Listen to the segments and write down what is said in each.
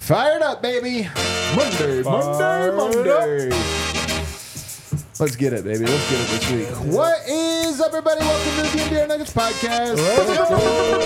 Fired up, baby. Monday. Let's get it, baby. Let's get it this week. What is up, everybody? Welcome to the DNVR Nuggets podcast. Let's go.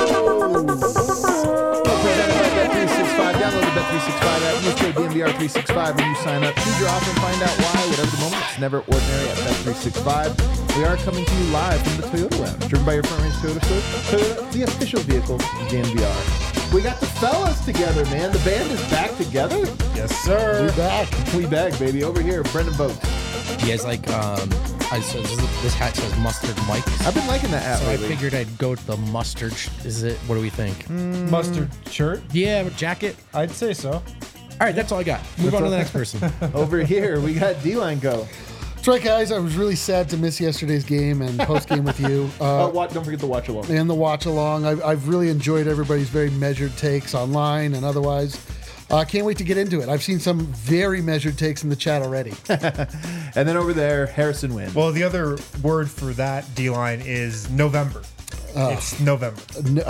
Presented by Bet365. Download the Bet365 app. Use code DNVR365 when you sign up. Choose your offer and find out why. Whatever the moment, it's never ordinary at Bet365. We are coming to you live from the Toyota Lounge, driven by your front range Toyota store. Toyota, the official vehicle of DNVR. We got the fellas together, man. The band is back together. Yes, sir. We back, baby. Over here, Brendan Vogt. You guys like, this hat says Mustard Mike. I've been liking that hat So lately. I figured I'd go with the mustard. What do we think? Mustard shirt? Yeah, jacket. I'd say so. All right, that's all I got. Move on to the next person. Over here, we got D-Line go. That's right, guys. I was really sad to miss yesterday's game and post-game with you. Don't forget the watch along. And the watch-along. I've really enjoyed everybody's very measured takes online and otherwise. Can't wait to get into it. I've seen some very measured takes in the chat already. And then over there, Harrison Wind. Well, the other word for that D-line is November. It's November.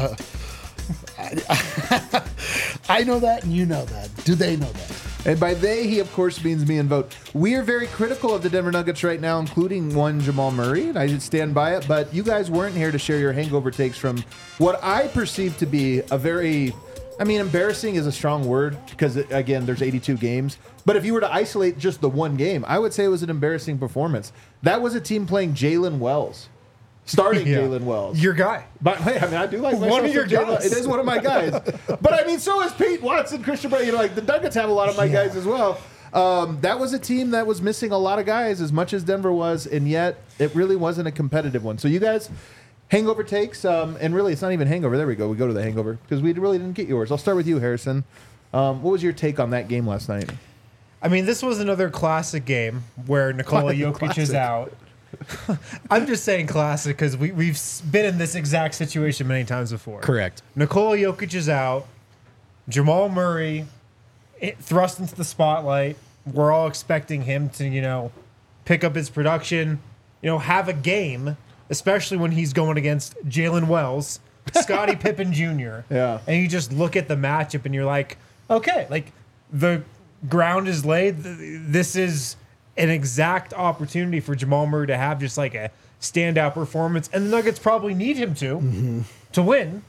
I know that and you know that. Do they know that? And by they, he of course means me and Vogt. We are very critical of the Denver Nuggets right now, including one Jamal Murray, and I should stand by it. But you guys weren't here to share your hangover takes from what I perceive to be a very, embarrassing is a strong word because, again, there's 82 games. But if you were to isolate just the one game, I would say it was an embarrassing performance. That was a team playing Jalen Wells. Starting Yeah. Jalen Wells. Your guy. But hey, I do like myself One of your some Jalen- guys. It is one of my guys. But so is Pete Watson, Christian Bray. The Nuggets have a lot of my guys as well. That was a team that was missing a lot of guys as much as Denver was, and yet it really wasn't a competitive one. So you guys, hangover takes, and really it's not even hangover. There we go. We go to the hangover because we really didn't get yours. I'll start with you, Harrison. What was your take on that game last night? This was another classic game where Nikola Jokic is out. I'm just saying classic because we've been in this exact situation many times before. Correct. Nikola Jokic is out. Jamal Murray thrust into the spotlight. We're all expecting him to, pick up his production, have a game, especially when he's going against Jalen Wells, Scottie Pippen Jr. Yeah. And you just look at the matchup and you're like, okay, the ground is laid. This is an exact opportunity for Jamal Murray to have just a standout performance, and the Nuggets probably need him to win,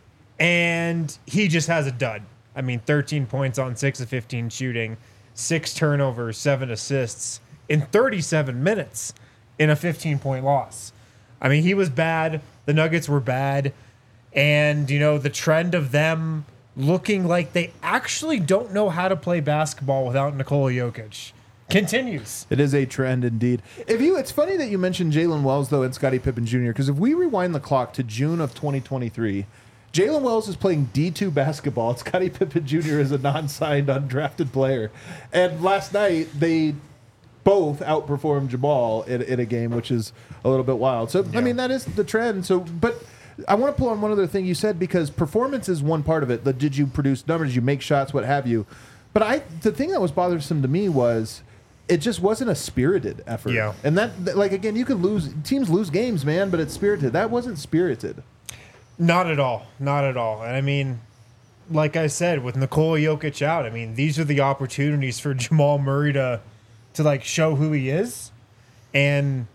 and he just has a dud. 13 points on 6 of 15 shooting, 6 turnovers, 7 assists in 37 minutes in a 15-point loss. He was bad. The Nuggets were bad, and the trend of them looking like they actually don't know how to play basketball without Nikola Jokic continues. It is a trend indeed. It's funny that you mentioned Jalen Wells though and Scottie Pippen Jr. because if we rewind the clock to June of 2023, Jalen Wells is playing D2 basketball. And Scottie Pippen Jr. is a non-signed, undrafted player. And last night they both outperformed Jamal in a game, which is a little bit wild. So Yeah. that is the trend. So, but I want to pull on one other thing you said because performance is one part of it. Did you produce numbers? Did you make shots? What have you? But the thing that was bothersome to me was it just wasn't a spirited effort. Yeah. And that, again, you could teams lose games, man, but it's spirited. That wasn't spirited. Not at all. Not at all. And like I said, with Nikola Jokic out, these are the opportunities for Jamal Murray to show who he is. And,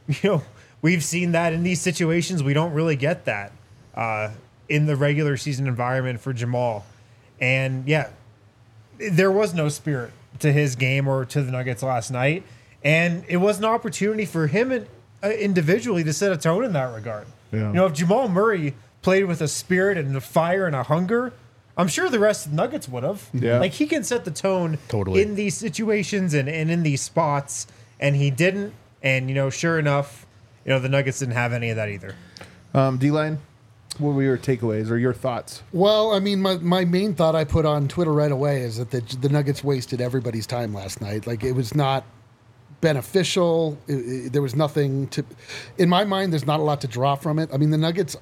we've seen that in these situations. We don't really get that in the regular season environment for Jamal. And, yeah, there was no spirit to his game or to the Nuggets last night. And it was an opportunity for him individually to set a tone in that regard. Yeah. If Jamal Murray played with a spirit and a fire and a hunger, I'm sure the rest of the Nuggets would have. Yeah. He can set the tone Totally. in these situations and in these spots, and he didn't. And, sure enough, the Nuggets didn't have any of that either. D-Line, what were your takeaways or your thoughts? Well, my main thought I put on Twitter right away is that the Nuggets wasted everybody's time last night. It was not beneficial. There was nothing to... In my mind, there's not a lot to draw from it. The Nuggets...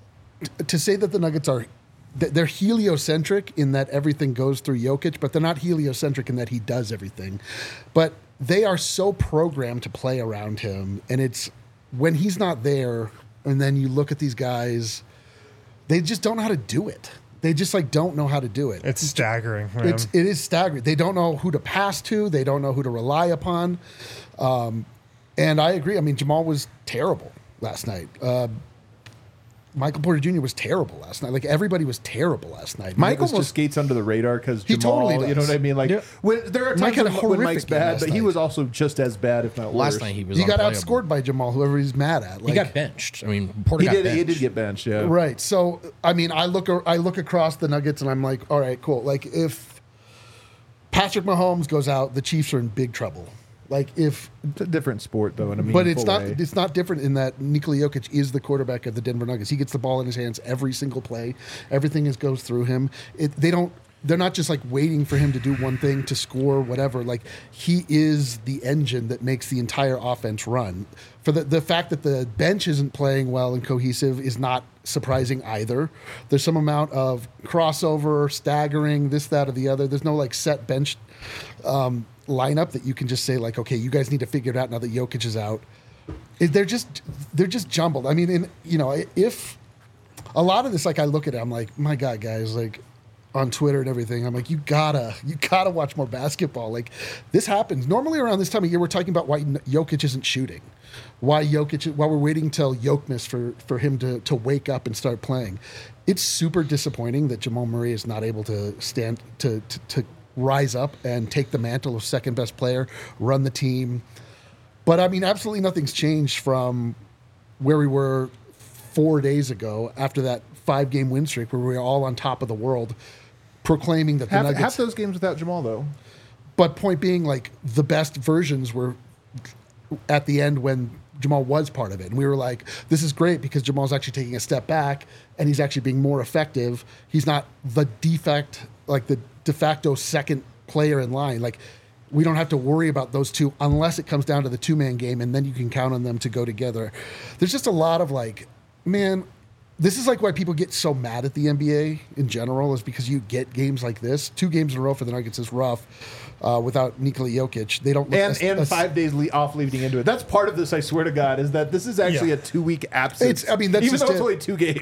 To say that the Nuggets are... They're heliocentric in that everything goes through Jokic, but they're not heliocentric in that he does everything. But they are so programmed to play around him, and it's... When he's not there, and then you look at these guys... They just don't know how to do it. They just like don't know how to do it. It's staggering. Man. It is staggering. They don't know who to pass to. They don't know who to rely upon. And I agree. I mean, Jamal was terrible last night. Michael Porter Jr. was terrible last night. Like everybody was terrible last night. Mike almost skates under the radar because He Jamal, totally does. you know what I mean? Like there are Mike times had a when Mike's horrific game bad, last but he night. was also just as bad, if not worse. Last night he was. He got unplayable. outscored by Jamal, whoever he's mad at. He Like, got benched. I mean, Porter He got did. benched. He did get benched. Yeah. right. So I mean, I look across the Nuggets and I'm like, all right, cool. Like if Patrick Mahomes goes out, the Chiefs are in big trouble. Like if, It's a different sport, though. In a but meaningful it's not. way. It's not different in that Nikola Jokic is the quarterback of the Denver Nuggets. He gets the ball in his hands every single play. Everything goes through him. They're not just like waiting for him to do one thing to score whatever. Like he is the engine that makes the entire offense run. For the fact that the bench isn't playing well and cohesive is not surprising either. There's some amount of crossover, staggering, this, that, or the other. There's no like set bench lineup that you can just say like, okay, you guys need to figure it out now that Jokic is out. They're just jumbled. I mean, if a lot of this, like I look at it, I'm like, my God, guys, like on Twitter and everything, I'm like, you gotta watch more basketball. Like this happens normally around this time of year. We're talking about why Jokic isn't shooting, why we're waiting till Jokic for him to wake up and start playing. It's super disappointing that Jamal Murray is not able to stand to rise up and take the mantle of second best player, run the team. But I mean, absolutely nothing's changed from where we were 4 days ago after that 5-game win streak where we were all on top of the world proclaiming that the Nuggets... half those games without Jamal, though. But point being, like, the best versions were at the end when Jamal was part of it. And we were like, this is great because Jamal's actually taking a step back and he's actually being more effective. He's not the de facto second player in line. Like, we don't have to worry about those two unless it comes down to the two-man game, and then you can count on them to go together. There's just a lot of like, man, this is like why people get so mad at the NBA in general, is because you get games like this. 2 games in a row for the Nuggets is rough without Nikola Jokic. They don't look And 5 days off leading into it. That's part of this, I swear to God, is that this is actually a 2-week absence. That's even just though it's only 2 games.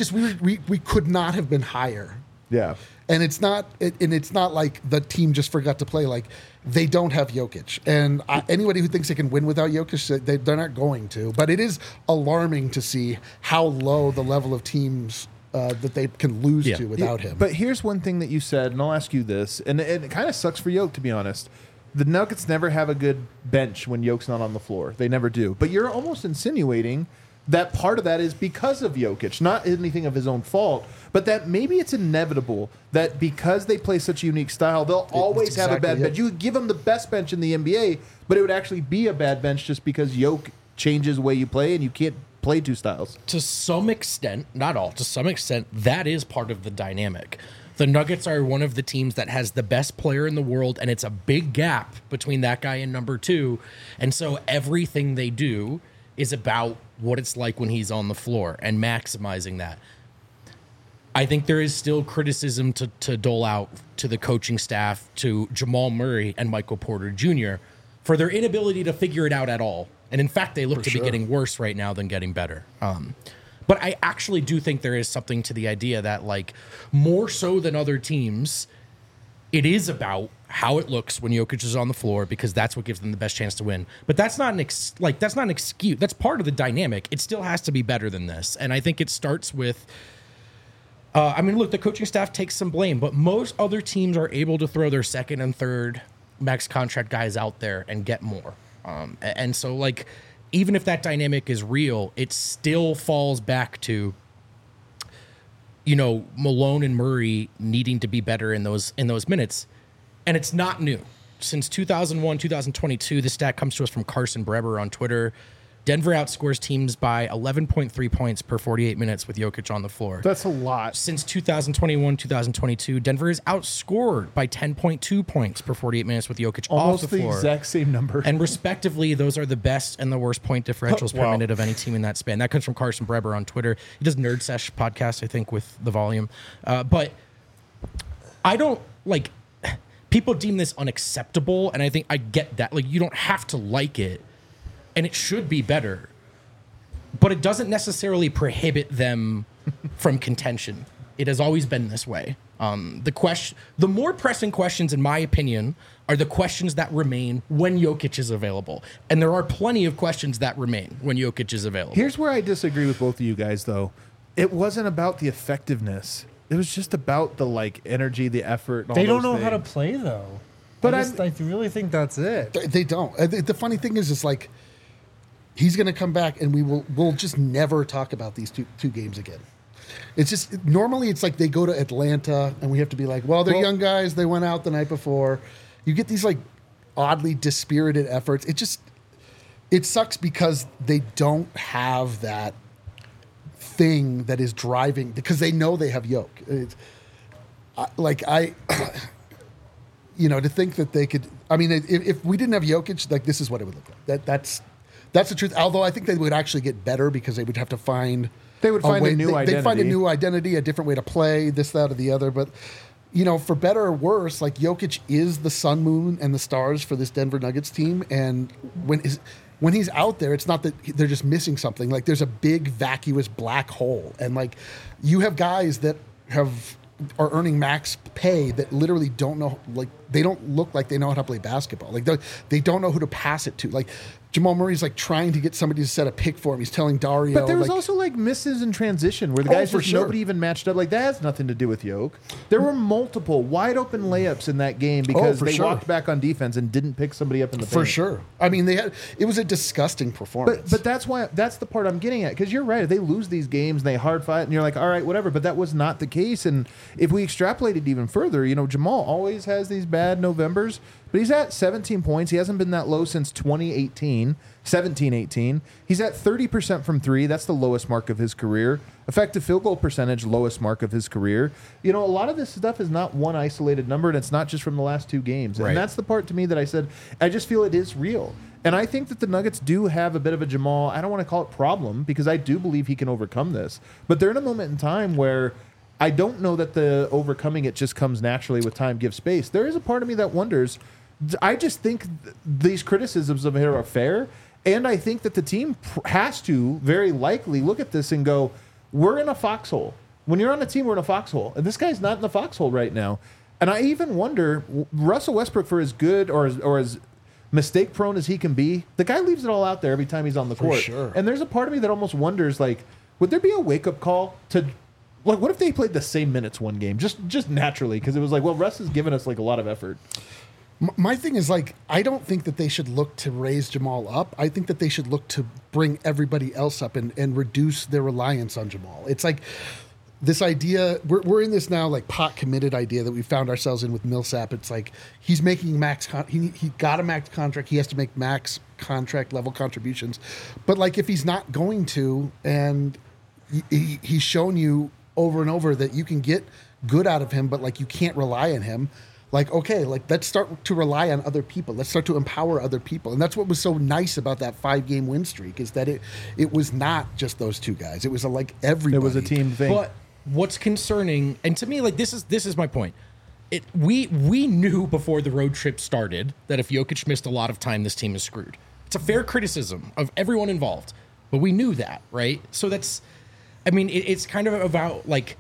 We could not have been higher. Yeah. And it's not like the team just forgot to play. Like, they don't have Jokic. And anybody who thinks they can win without Jokic, they're not going to. But it is alarming to see how low the level of teams that they can lose to without him. But here's one thing that you said, and I'll ask you this, and it kind of sucks for Jokic, to be honest. The Nuggets never have a good bench when Jokic's not on the floor. They never do. But you're almost insinuating that part of that is because of Jokic, not anything of his own fault, but that maybe it's inevitable that because they play such a unique style, they'll always have a bad bench. You could give them the best bench in the NBA, but it would actually be a bad bench just because Jokic changes the way you play and you can't play 2 styles. To some extent, not all, to some extent, that is part of the dynamic. The Nuggets are one of the teams that has the best player in the world, and it's a big gap between that guy and number 2. And so everything they do is about what it's like when he's on the floor and maximizing that. I think there is still criticism to dole out to the coaching staff, to Jamal Murray and Michael Porter Jr. for their inability to figure it out at all. And in fact, they look to be getting worse right now than getting better. But I actually do think there is something to the idea that, like, more so than other teams, it is about how it looks when Jokic is on the floor, because that's what gives them the best chance to win. But that's not an excuse. That's part of the dynamic. It still has to be better than this. And I think it starts with, look, the coaching staff takes some blame, but most other teams are able to throw their second and third max contract guys out there and get more. And so, like, even if that dynamic is real, it still falls back to, Malone and Murray needing to be better in those minutes. And it's not new. Since 2001, 2022, this stat comes to us from Carson Breber on Twitter. Denver outscores teams by 11.3 points per 48 minutes with Jokic on the floor. That's a lot. Since 2021, 2022, Denver is outscored by 10.2 points per 48 minutes with Jokic Almost off the floor. exact same number. And respectively, those are the best and the worst point differentials per minute of any team in that span. That comes from Carson Breber on Twitter. He does Nerd Sesh podcast, I think, with The Volume. But I don't, like, people deem this unacceptable, and I think I get that. Like, you don't have to like it, and it should be better. But it doesn't necessarily prohibit them from contention. It has always been this way. The more pressing questions, in my opinion, are the questions that remain when Jokic is available. And there are plenty of questions that remain when Jokic is available. Here's where I disagree with both of you guys, though. It wasn't about the effectiveness. It was just about the energy, the effort. And all They don't those know how to things. play though. But I really think that's it. They don't. The funny thing is like he's going to come back, and we'll just never talk about these two games again. It's just normally it's like they go to Atlanta, and we have to be like, well, they're young guys. They went out the night before. You get these like oddly dispirited efforts. It sucks because they don't have that thing that is driving, because they know they have Yoke. To think that they could. I mean, if we didn't have Jokic, like this is what it would look like. That's the truth. Although I think they would actually get better because they would have to find. They would find a new identity. They'd find a new identity, a different way to play, this, that, or the other. But for better or worse, like Jokic is the sun, moon, and the stars for this Denver Nuggets team. And when he's out there, it's not that they're just missing something. Like there's a big vacuous black hole, and like you have guys that are earning max pay that literally don't know, like they don't look like they know how to play basketball. Like they don't know who to pass it to. Like Jamal Murray's like trying to get somebody to set a pick for him. He's telling Dario. But there was also like misses in transition where the guys nobody even matched up. Like that has nothing to do with Yoke. There were multiple wide open layups in that game because they walked back on defense and didn't pick somebody up in the paint. For sure. I mean, it was a disgusting performance. But that's the part I'm getting at, because you're right. They lose these games and they hard fight and you're like, all right, whatever. But that was not the case. And if we extrapolated even further, Jamal always has these bad Novembers, but he's at 17 points. He hasn't been that low since 2018. 17-18. He's at 30% from three. That's the lowest mark of his career. Effective field goal percentage, lowest mark of his career. A lot of this stuff is not one isolated number, and it's not just from the last two games. Right. And that's the part to me that I said, I just feel it is real. And I think that the Nuggets do have a bit of a Jamal, I don't want to call it problem, because I do believe he can overcome this. But they're in a moment in time where I don't know that the overcoming it just comes naturally with time, give space. There is a part of me that wonders, I just think these criticisms of him are fair. And I think that the team has to very likely look at this and go, we're in a foxhole. When you're on a team, we're in a foxhole. And this guy's not in the foxhole right now. And I even wonder, Russell Westbrook, for as good or as mistake prone as he can be, the guy leaves it all out there every time he's on the court. Sure. And there's a part of me that almost wonders, like, would there be a wake-up call to, like, what if they played the same minutes one game? Just naturally, because it was like, well, Russ has given us, like, a lot of effort. My thing is, like, I don't think that they should look to raise Jamal up. I think that they should look to bring everybody else up and reduce their reliance on Jamal. It's like this idea, we're in this now, like, pot committed idea that we found ourselves in with Millsap. It's like he's making he got a max contract. He has to make max contract level contributions. But, like, if he's not going to, and he's shown you over and over that you can get good out of him, but, like, you can't rely on him. Like, okay, like let's start to rely on other people. Let's start to empower other people. And that's what was so nice about that 5-game win streak, is that it was not just those two guys. It was like everybody. It was a team thing. But what's concerning, and to me, like this is my point. We knew before the road trip started that if Jokic missed a lot of time, this team is screwed. It's a fair criticism of everyone involved, but we knew that, right? So it's kind of about like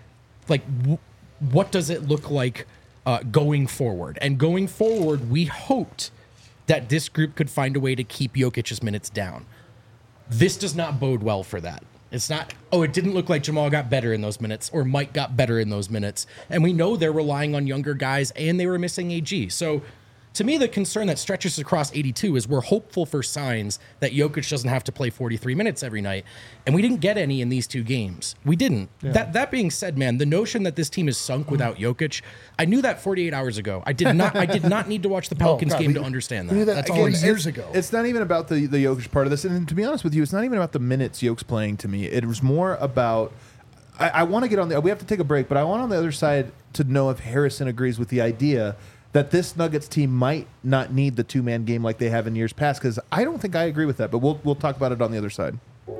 what does it look like going forward? And going forward, we hoped that this group could find a way to keep Jokic's minutes down. This does not bode well for that. It's not, it didn't look like Jamal got better in those minutes or Mike got better in those minutes. And we know they're relying on younger guys and they were missing AG. So to me, the concern that stretches across 82 is we're hopeful for signs that Jokic doesn't have to play 43 minutes every night. And we didn't get any in these two games. We didn't. Yeah. That being said, man, the notion that this team is sunk without Jokic, I knew that 48 hours ago. I did not need to watch the Pelicans game to understand that. That's all years ago. It's not even about the Jokic part of this. And to be honest with you, it's not even about the minutes Jokic playing to me. It was more about, I want to get on we have to take a break, but I want on the other side to know if Harrison agrees with the idea that this Nuggets team might not need the two-man game like they have in years past, because I don't think I agree with that, but we'll talk about it on the other side.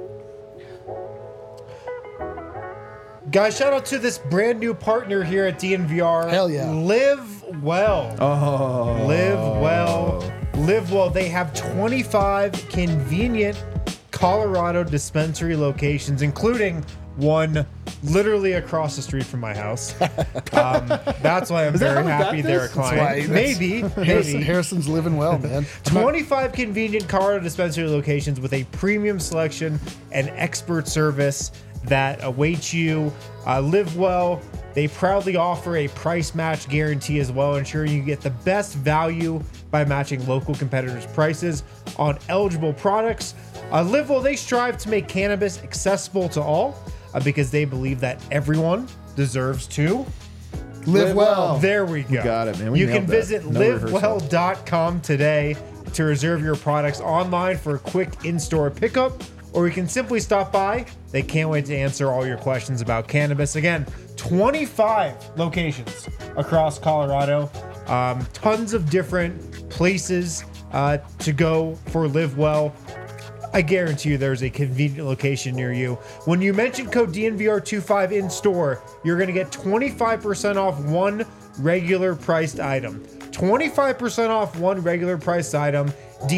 Guys, shout out to this brand new partner here at DNVR. Hell yeah. Live Well. Oh. Live Well. Live Well. They have 25 convenient Colorado dispensary locations, including one literally across the street from my house. That's why I'm that very how we got happy they're a this? client. That's why- Maybe. Harrison's living well, man. 25 convenient Colorado dispensary locations with a premium selection and expert service that awaits you. Live Well. They proudly offer a price match guarantee as well, ensuring you get the best value by matching local competitors' prices on eligible products. Live Well, they strive to make cannabis accessible to all because they believe that everyone deserves to. Live well. There we go. got it, man. We You can nailed that. visit No rehearsal. livewell.com today to reserve your products online for a quick in-store pickup, or you can simply stop by. They can't wait to answer all your questions about cannabis. Again, 25 locations across Colorado. Tons of different places to go for Live Well. I guarantee you there's a convenient location near you. When you mention code DNVR25 in store, you're going to get 25% off one regular priced item. 25% off one regular priced item.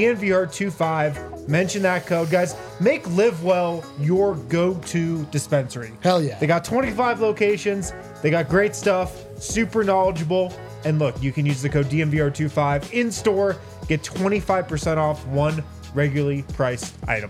DNVR25. Mention that code, guys. Make Live Well your go-to dispensary. Hell yeah. They got 25 locations. They got great stuff. Super knowledgeable. And look, you can use the code DNVR25 in store. Get 25% off one regularly priced item.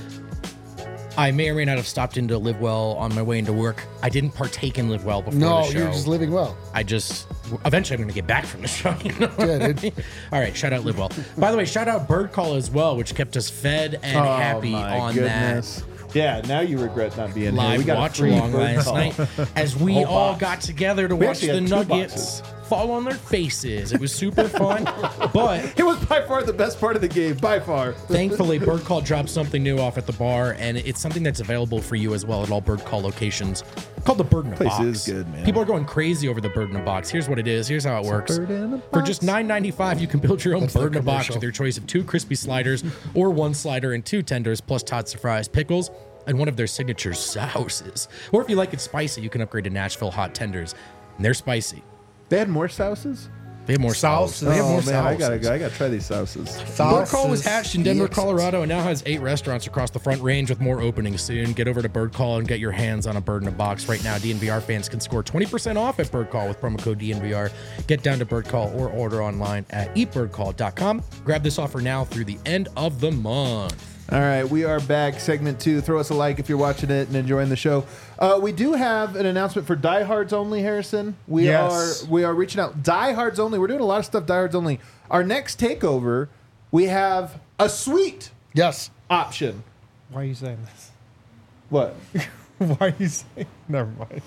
I may or may not have stopped into Live Well on my way into work. I didn't partake in Live Well before No, the show. you're just living well. Eventually I'm going to get back from the show. You know what Yeah, I dude. mean? All right, shout out Live Well. By the way, shout out Bird Call as well, which kept us fed and happy on that Yeah, now you regret not being here. live We got a watch free along Bird last Call. night as we Whole all box. got together to We watch actually the had 2 Nuggets fall on their faces. It was super fun, but It was by far the best part of the game, by far. thankfully, Bird Call dropped something new off at the bar, and it's something that's available for you as well at all Bird Call locations. Called the Bird in a Place Box. is good, man. People are going crazy over the Bird in a Box. Here's what it is. Here's how it works. Bird in a For just Box. $9.95, you can build your own That's the Bird in a Box commercial. with your choice of 2 crispy sliders or 1 slider and 2 tenders, plus Todd's Fries pickles, and one of their signature sauces. Or if you like it spicy, you can upgrade to Nashville hot tenders, and they're spicy. They had more sauces? They have more Sauce. sauces. They have more Oh, man, I sauces. gotta try these sauces. Bird Call was Sauces. hatched in Denver, Excellent. Colorado, and now has 8 restaurants across the Front Range with more openings soon. Get over to Bird Call and get your hands on a Bird in a Box. Right now, DNVR fans can score 20% off at Bird Call with promo code DNVR. Get down to Bird Call or order online at eatbirdcall.com. Grab this offer now through the end of the month. All right, we are back. Segment 2. Throw us a like if you're watching it and enjoying the show. We do have an announcement for Diehards Only, Harrison. We Yes. are reaching out. Diehards Only. We're doing a lot of stuff Diehards Only. Our next takeover, we have a suite Yes. option. Why are you saying this? What? Why are you saying? Never mind.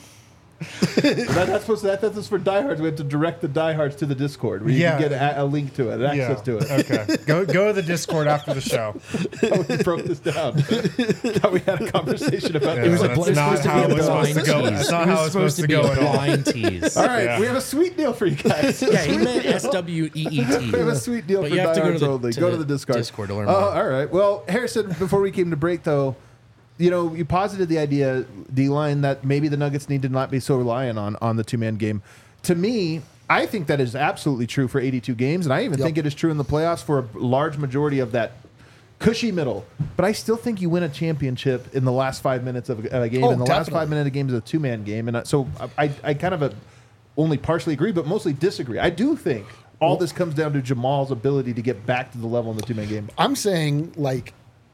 That's for Diehards. We have to direct the Diehards to the Discord where you Yeah. can get a link to it, and access to it. Okay. Go to the Discord after the show. How we broke this down. How we had a conversation about Yeah, this. that's not how it was supposed to go. That's not how it's supposed to go at all. blind tease. All right, Yeah. we have a sweet deal for you guys. Yeah, he meant SWEET. We have a sweet deal But for you have to go Diehards to the- Only. to Go to the the Discord. Discord to learn more. All right. Well, Harrison, before we came to break, though, you posited the idea, D-Line, that maybe the Nuggets need to not be so reliant on the two-man game. To me, I think that is absolutely true for 82 games, and I even Yep. think it is true in the playoffs for a large majority of that cushy middle. But I still think you win a championship in the last 5 minutes of a game. Oh, In the last definitely. 5 minutes of a game is a two-man game. And so I kind of only partially agree, but mostly disagree. I do think all this comes down to Jamal's ability to get back to the level in the two-man game. I'm saying, like,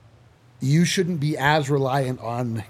you shouldn't be as reliant on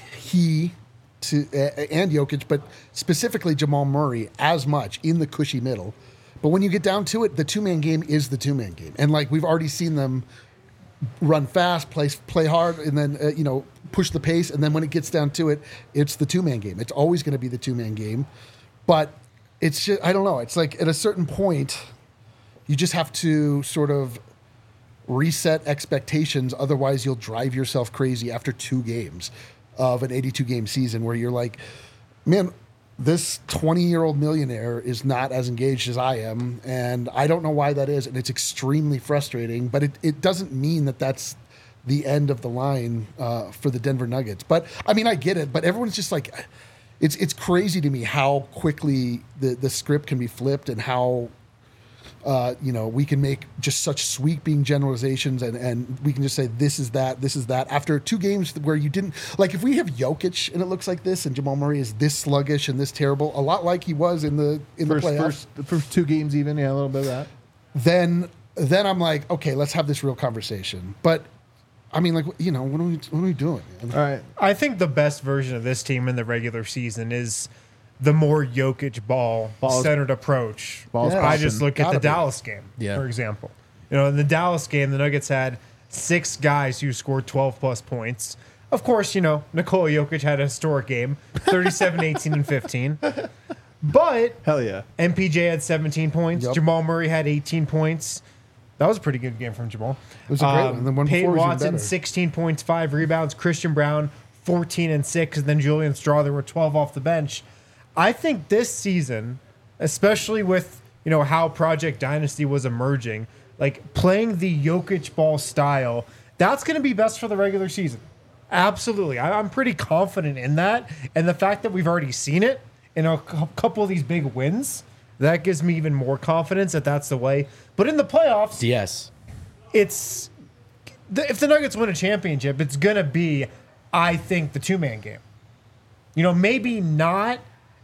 and Jokic, but specifically Jamal Murray as much in the cushy middle. But when you get down to it, the two-man game is the two-man game. And, like, we've already seen them run fast, play hard, and then, push the pace. And then when it gets down to it, it's the two-man game. It's always going to be the two-man game. But it's just, I don't know. It's like at a certain point, you just have to sort of reset expectations. Otherwise, you'll drive yourself crazy after 2 games of an 82-game season where you're like, man, this 20-year-old millionaire is not as engaged as I am, and I don't know why that is, and it's extremely frustrating, but it doesn't mean that that's the end of the line for the Denver Nuggets. But, I mean, I get it, but everyone's just like, it's crazy to me how quickly the script can be flipped and how We can make just such sweeping generalizations and we can just say this is that. After 2 games where you didn't like, if we have Jokic and it looks like this, and Jamal Murray is this sluggish and this terrible, a lot like he was in the playoffs, the first 2 games, even a little bit of that. Then I'm like, okay, let's have this real conversation. But I mean, like, what are we doing, man? All right. I think the best version of this team in the regular season is the more Jokic ball-centered approach. I just look at the Dallas game, for example. In the Dallas game, the Nuggets had 6 guys who scored 12-plus points. Of course, Nikola Jokic had a historic game, 37, 18, and 15. But hell yeah, MPJ had 17 points. Yep. Jamal Murray had 18 points. That was a pretty good game from Jamal. It was a great one. The one Peyton before was even Watson, better. 16 points, 5 rebounds. Christian Brown, 14 and 6. And then Julian Strawther were 12 off the bench. I think this season, especially with how Project Dynasty was emerging, like playing the Jokic ball style, that's going to be best for the regular season. Absolutely. I'm pretty confident in that. And the fact that we've already seen it in a couple of these big wins, that gives me even more confidence that that's the way. But in the playoffs, Yes. if the Nuggets win a championship, it's going to be, I think, the 2-man game. Maybe not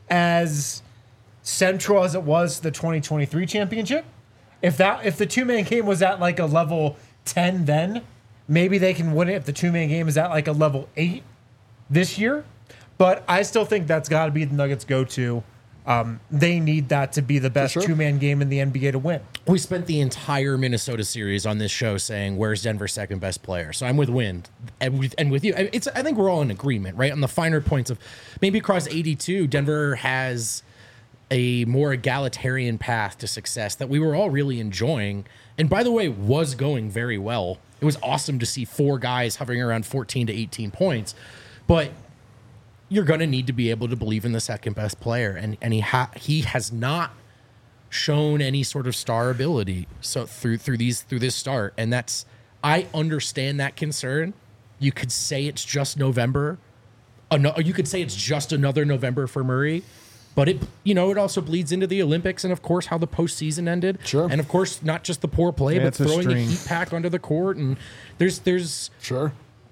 as central as it was to the 2023 championship. If the 2-man game was at like a level 10 then, maybe they can win it if the 2-man game is at like a level 8 this year. But I still think that's got to be the Nuggets' go-to. They need that to be the best sure. 2-man game in the NBA to win. We spent the entire Minnesota series on this show saying, where's Denver's second best player? So I'm with Wind and with you. I think we're all in agreement, right? On the finer points of maybe across 82, Denver has a more egalitarian path to success that we were all really enjoying. And by the way, was going very well. It was awesome to see 4 guys hovering around 14 to 18 points. But you're going to need to be able to believe in the second best player. And he has not shown any sort of star ability through this start. And I understand that concern. You could say it's just November. You could say it's just another November for Murray. But it also bleeds into the Olympics and, of course, how the postseason ended. Sure. And, of course, not just the poor play, but it's a throwing the string. heat pack onto the court. And there's Sure.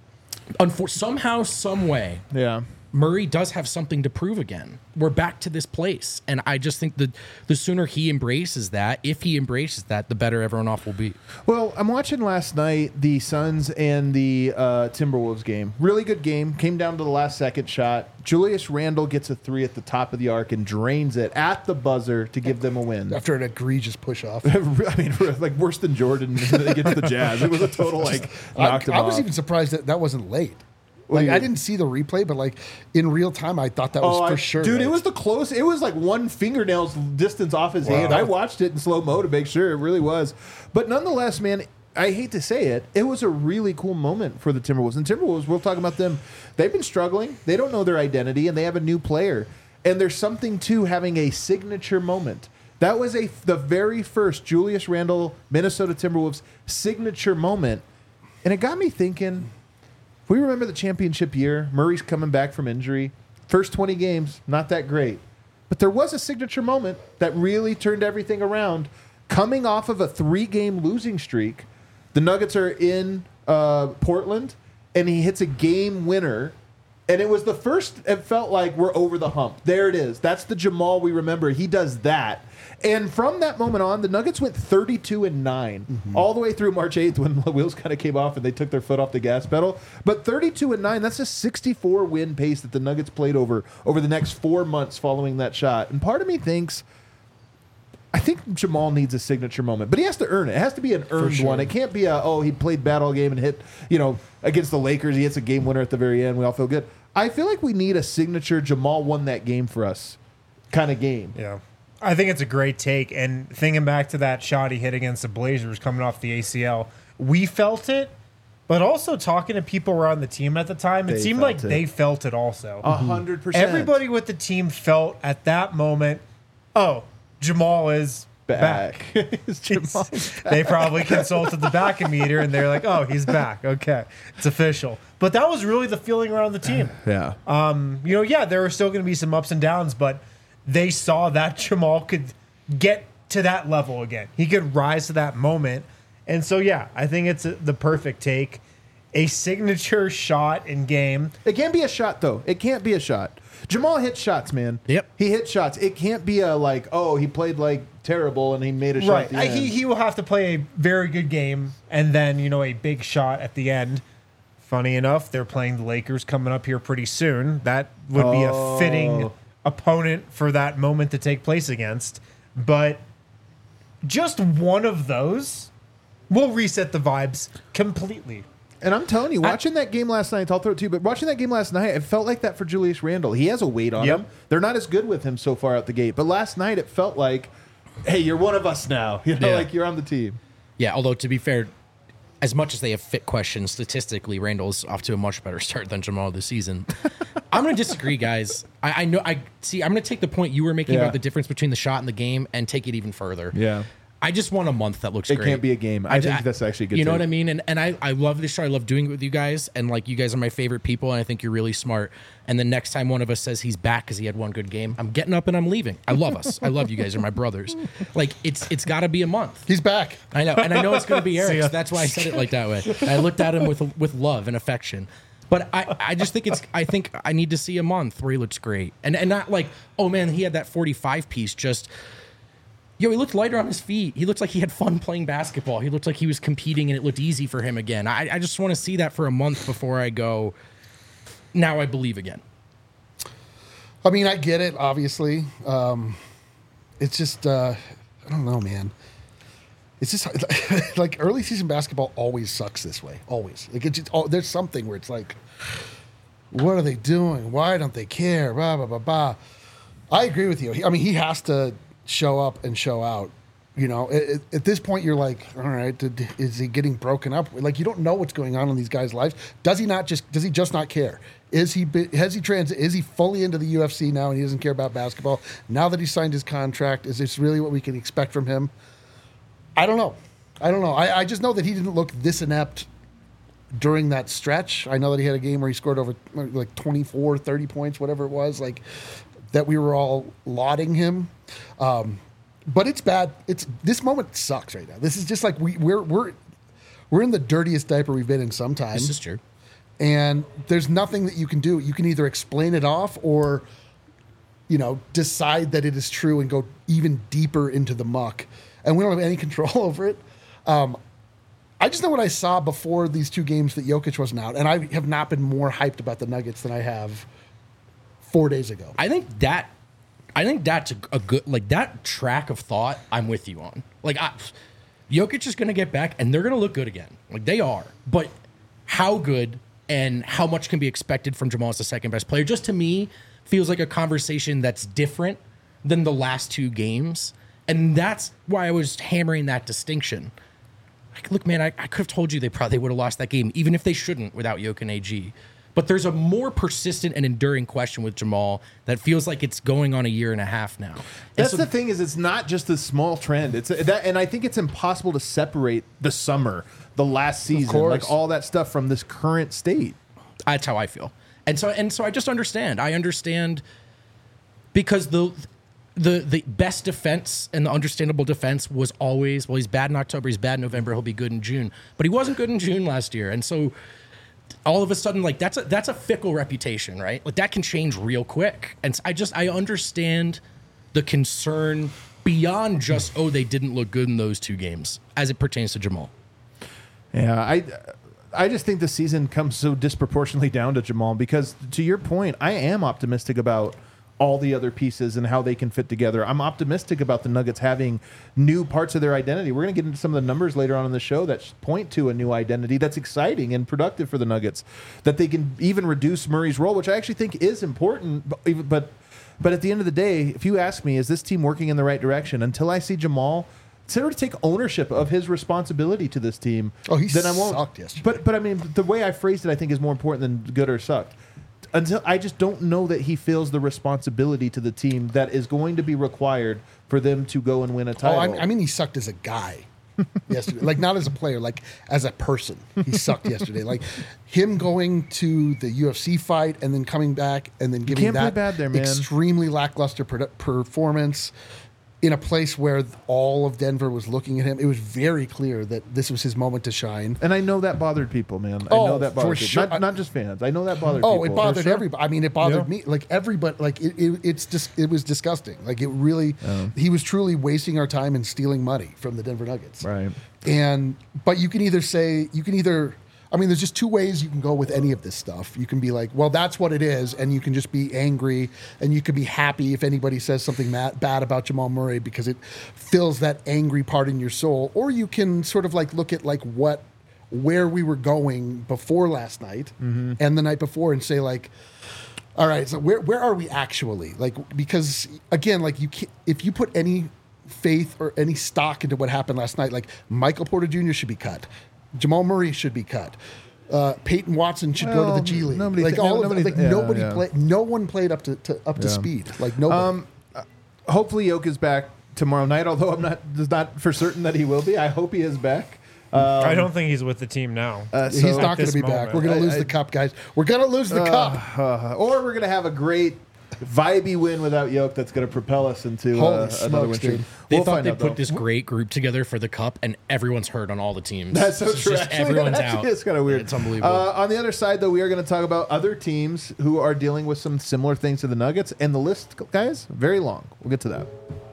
somehow, some way, yeah. Murray does have something to prove again. We're back to this place. And I just think that the sooner he embraces that, if he embraces that, the better everyone off will be. Well, I'm watching last night the Suns and the Timberwolves game. Really good game. Came down to the last second shot. Julius Randle gets a 3 at the top of the arc and drains it at the buzzer to give them a win. After an egregious push-off. I mean, like worse than Jordan against the Jazz. It was a total knocked him I was off. even surprised that wasn't late. What do Like, you- I didn't see the replay, but like in real time, I thought that was for sure. Dude, late. it was the close. It was like one fingernail's distance off his hand. I watched it in slow mo to make sure it really was. But nonetheless, man, I hate to say it, it was a really cool moment for the Timberwolves. And Timberwolves, we'll talk about them. They've been struggling. They don't know their identity, and they have a new player. And there's something to having a signature moment. That was the very first Julius Randle, Minnesota Timberwolves signature moment. And it got me thinking, if we remember the championship year, Murray's coming back from injury. First 20 games, not that great. But there was a signature moment that really turned everything around. Coming off of a 3-game losing streak, the Nuggets are in Portland, and he hits a game winner. And it was the first, it felt like we're over the hump. There it is. That's the Jamal we remember. He does that. And from that moment on, the Nuggets went 32-9 all the way through March 8th when the wheels kind of came off and they took their foot off the gas pedal. But 32-9, that's a 64-win pace that the Nuggets played over the next 4 months following that shot. And part of me thinks, I think Jamal needs a signature moment, but he has to earn it. It has to be an earned one. It can't be he played bad all game and hit, against the Lakers. He hits a game winner at the very end. We all feel good. I feel like we need a signature Jamal won that game for us kind of game. Yeah. I think it's a great take. And thinking back to that shot he hit against the Blazers coming off the ACL, we felt it, but also talking to people around the team at the time, it They seemed felt like it. they felt it also. 100%. Everybody with the team felt at that moment, Jamal is back. Is Jamal They probably consulted the back meter and they're like, he's back. Okay, it's official. But that was really the feeling around the team. Yeah. There were still going to be some ups and downs, but they saw that Jamal could get to that level again. He could rise to that moment. And so, yeah, I think it's the perfect take. A signature shot in game. It can't be a shot, though. It can't be a shot. Jamal hits shots, man. Yep. He hit shots. It can't be a like, oh, he played like terrible and he made a shot Right. at the end. He will have to play a very good game and then, a big shot at the end. Funny enough, they're playing the Lakers coming up here pretty soon. That would be a fitting opponent for that moment to take place against. But just one of those will reset the vibes completely. And I'm telling you, watching that game last night, I'll throw it to you, but watching that game last night, it felt like that for Julius Randle. He has a weight on him. They're not as good with him so far out the gate. But last night, it felt like, hey, you're one of us now. Like you're on the team. Yeah, although to be fair, as much as they have fit questions, statistically, Randall's off to a much better start than Jamal this season. I'm going to disagree, guys. I'm going to take the point you were making about the difference between the shot and the game and take it even further. Yeah. I just want a month that looks It great. can't be a game. I think that's actually a good. You know take. what I mean? And I love this show. I love doing it with you guys. And like, you guys are my favorite people. And I think you're really smart. And the next time one of us says he's back because he had one good game, I'm getting up and I'm leaving. I love us. I love you guys. You're my brothers. Like, it's got to be a month. He's back. I know. And I know it's going to be See ya. Eric's. That's why I said it like that way. And I looked at him with love and affection. But I just think I think I need to see a month where he looks great. And not like, oh man, he had that 45 piece just. He looked lighter on his feet. He looked like he had fun playing basketball. He looked like he was competing and it looked easy for him again. I just want to see that for a month before I go, now I believe again. I mean, I get it, obviously. It's just, I don't know, man. It's just like early season basketball always sucks this way. Always. Like it's just, there's something where it's like, what are they doing? Why don't they care? Blah, blah, blah, blah. I agree with you. He has to show up and show out. At this point, you're like, all right, is he getting broken up? Like, you don't know what's going on in these guys' lives. Does he just not care? Is he fully into the UFC now and he doesn't care about basketball? Now that he signed his contract, is this really what we can expect from him? I don't know. I just know that he didn't look this inept during that stretch. I know that he had a game where he scored over like 24, 30 points, whatever it was, like that we were all lauding him. But it's bad. This moment sucks right now. This is just like we're in the dirtiest diaper we've been in some time. This is true. And there's nothing that you can do. You can either explain it off or, decide that it is true and go even deeper into the muck. And we don't have any control over it. I just know what I saw before these two games that Jokic wasn't out. And I have not been more hyped about the Nuggets than I have 4 days ago. I think that's a good, like, that track of thought I'm with you on. Like, Jokic is going to get back and they're going to look good again. Like, they are. But how good and how much can be expected from Jamal as the second best player, just to me, feels like a conversation that's different than the last two games. And that's why I was hammering that distinction. Like, look, man, I could have told you they probably would have lost that game, even if they shouldn't without Jokic and AG. But there's a more persistent and enduring question with Jamal that feels like it's going on a year and a half now. That's the thing is it's not just a small trend. And I think it's impossible to separate the summer, the last season, like all that stuff from this current state. That's how I feel. And so I just understand. I understand because the best defense and the understandable defense was always, well, he's bad in October, he's bad in November, he'll be good in June. But he wasn't good in June last year. And so all of a sudden, like, that's a fickle reputation, right? Like, that can change real quick. And I understand the concern beyond just, oh, they didn't look good in those two games as it pertains to Jamal. Yeah, I just think the season comes so disproportionately down to Jamal because, to your point, I am optimistic about all the other pieces and how they can fit together. I'm optimistic about the Nuggets having new parts of their identity. We're going to get into some of the numbers later on in the show that point to a new identity that's exciting and productive for the Nuggets, that they can even reduce Murray's role, which I actually think is important. But at the end of the day, if you ask me, is this team working in the right direction? Until I see Jamal sort of take ownership of his responsibility to this team, then I won't. Sucked yesterday. But I mean, the way I phrased it, I think, is more important than good or sucked. Until I just don't know that he feels the responsibility to the team that is going to be required for them to go and win a title. I mean, he sucked as a guy yesterday. Like, not as a player, like as a person. He sucked yesterday. Like, him going to the UFC fight and then coming back and then giving can't play that bad there, man. extremely lackluster performance in a place where all of Denver was looking at him. It was very clear that this was his moment to shine. And I know that bothered people, man. I Oh, know that for bothered people. sure. Not just fans. I know that bothered people. Oh, it bothered For sure. everybody. I mean, it bothered Yeah. me. Like everybody. Like it's just it was disgusting. Like it really. He was truly wasting our time and stealing money from the Denver Nuggets. Right. But you can either. I mean, there's just two ways you can go with any of this stuff. You can be like, well, that's what it is, and you can just be angry, and you can be happy if anybody says something bad about Jamal Murray because it fills that angry part in your soul. Or you can sort of like look at like where we were going before last night and the night before, and say like, all right, so where are we actually? Like, because again, like if you put any faith or any stock into what happened last night, like Michael Porter Jr. should be cut. Jamal Murray should be cut. Peyton Watson should go to the G League. nobody Like thi- all nobody- of like yeah, nobody yeah. played. No one played up to speed. Like nobody. Hopefully, Yoke is back tomorrow night. Although I'm not for certain that he will be. I hope he is back. I don't think he's with the team now. He's so- not going this to be back. moment. We're going to lose I- the cup, guys. We're going to lose the cup. Or we're going to have a great vibey win without Yoke that's going to propel us into Holy another smokes, win streak. dude. They We'll thought find they out, put though. this great group together for the cup, and everyone's hurt on all the teams. That's so It's true. just Actually, everyone's actually, out. It's kind of weird. It's unbelievable. On the other side, though, we are going to talk about other teams who are dealing with some similar things to the Nuggets, and the list, guys, very long. We'll get to that.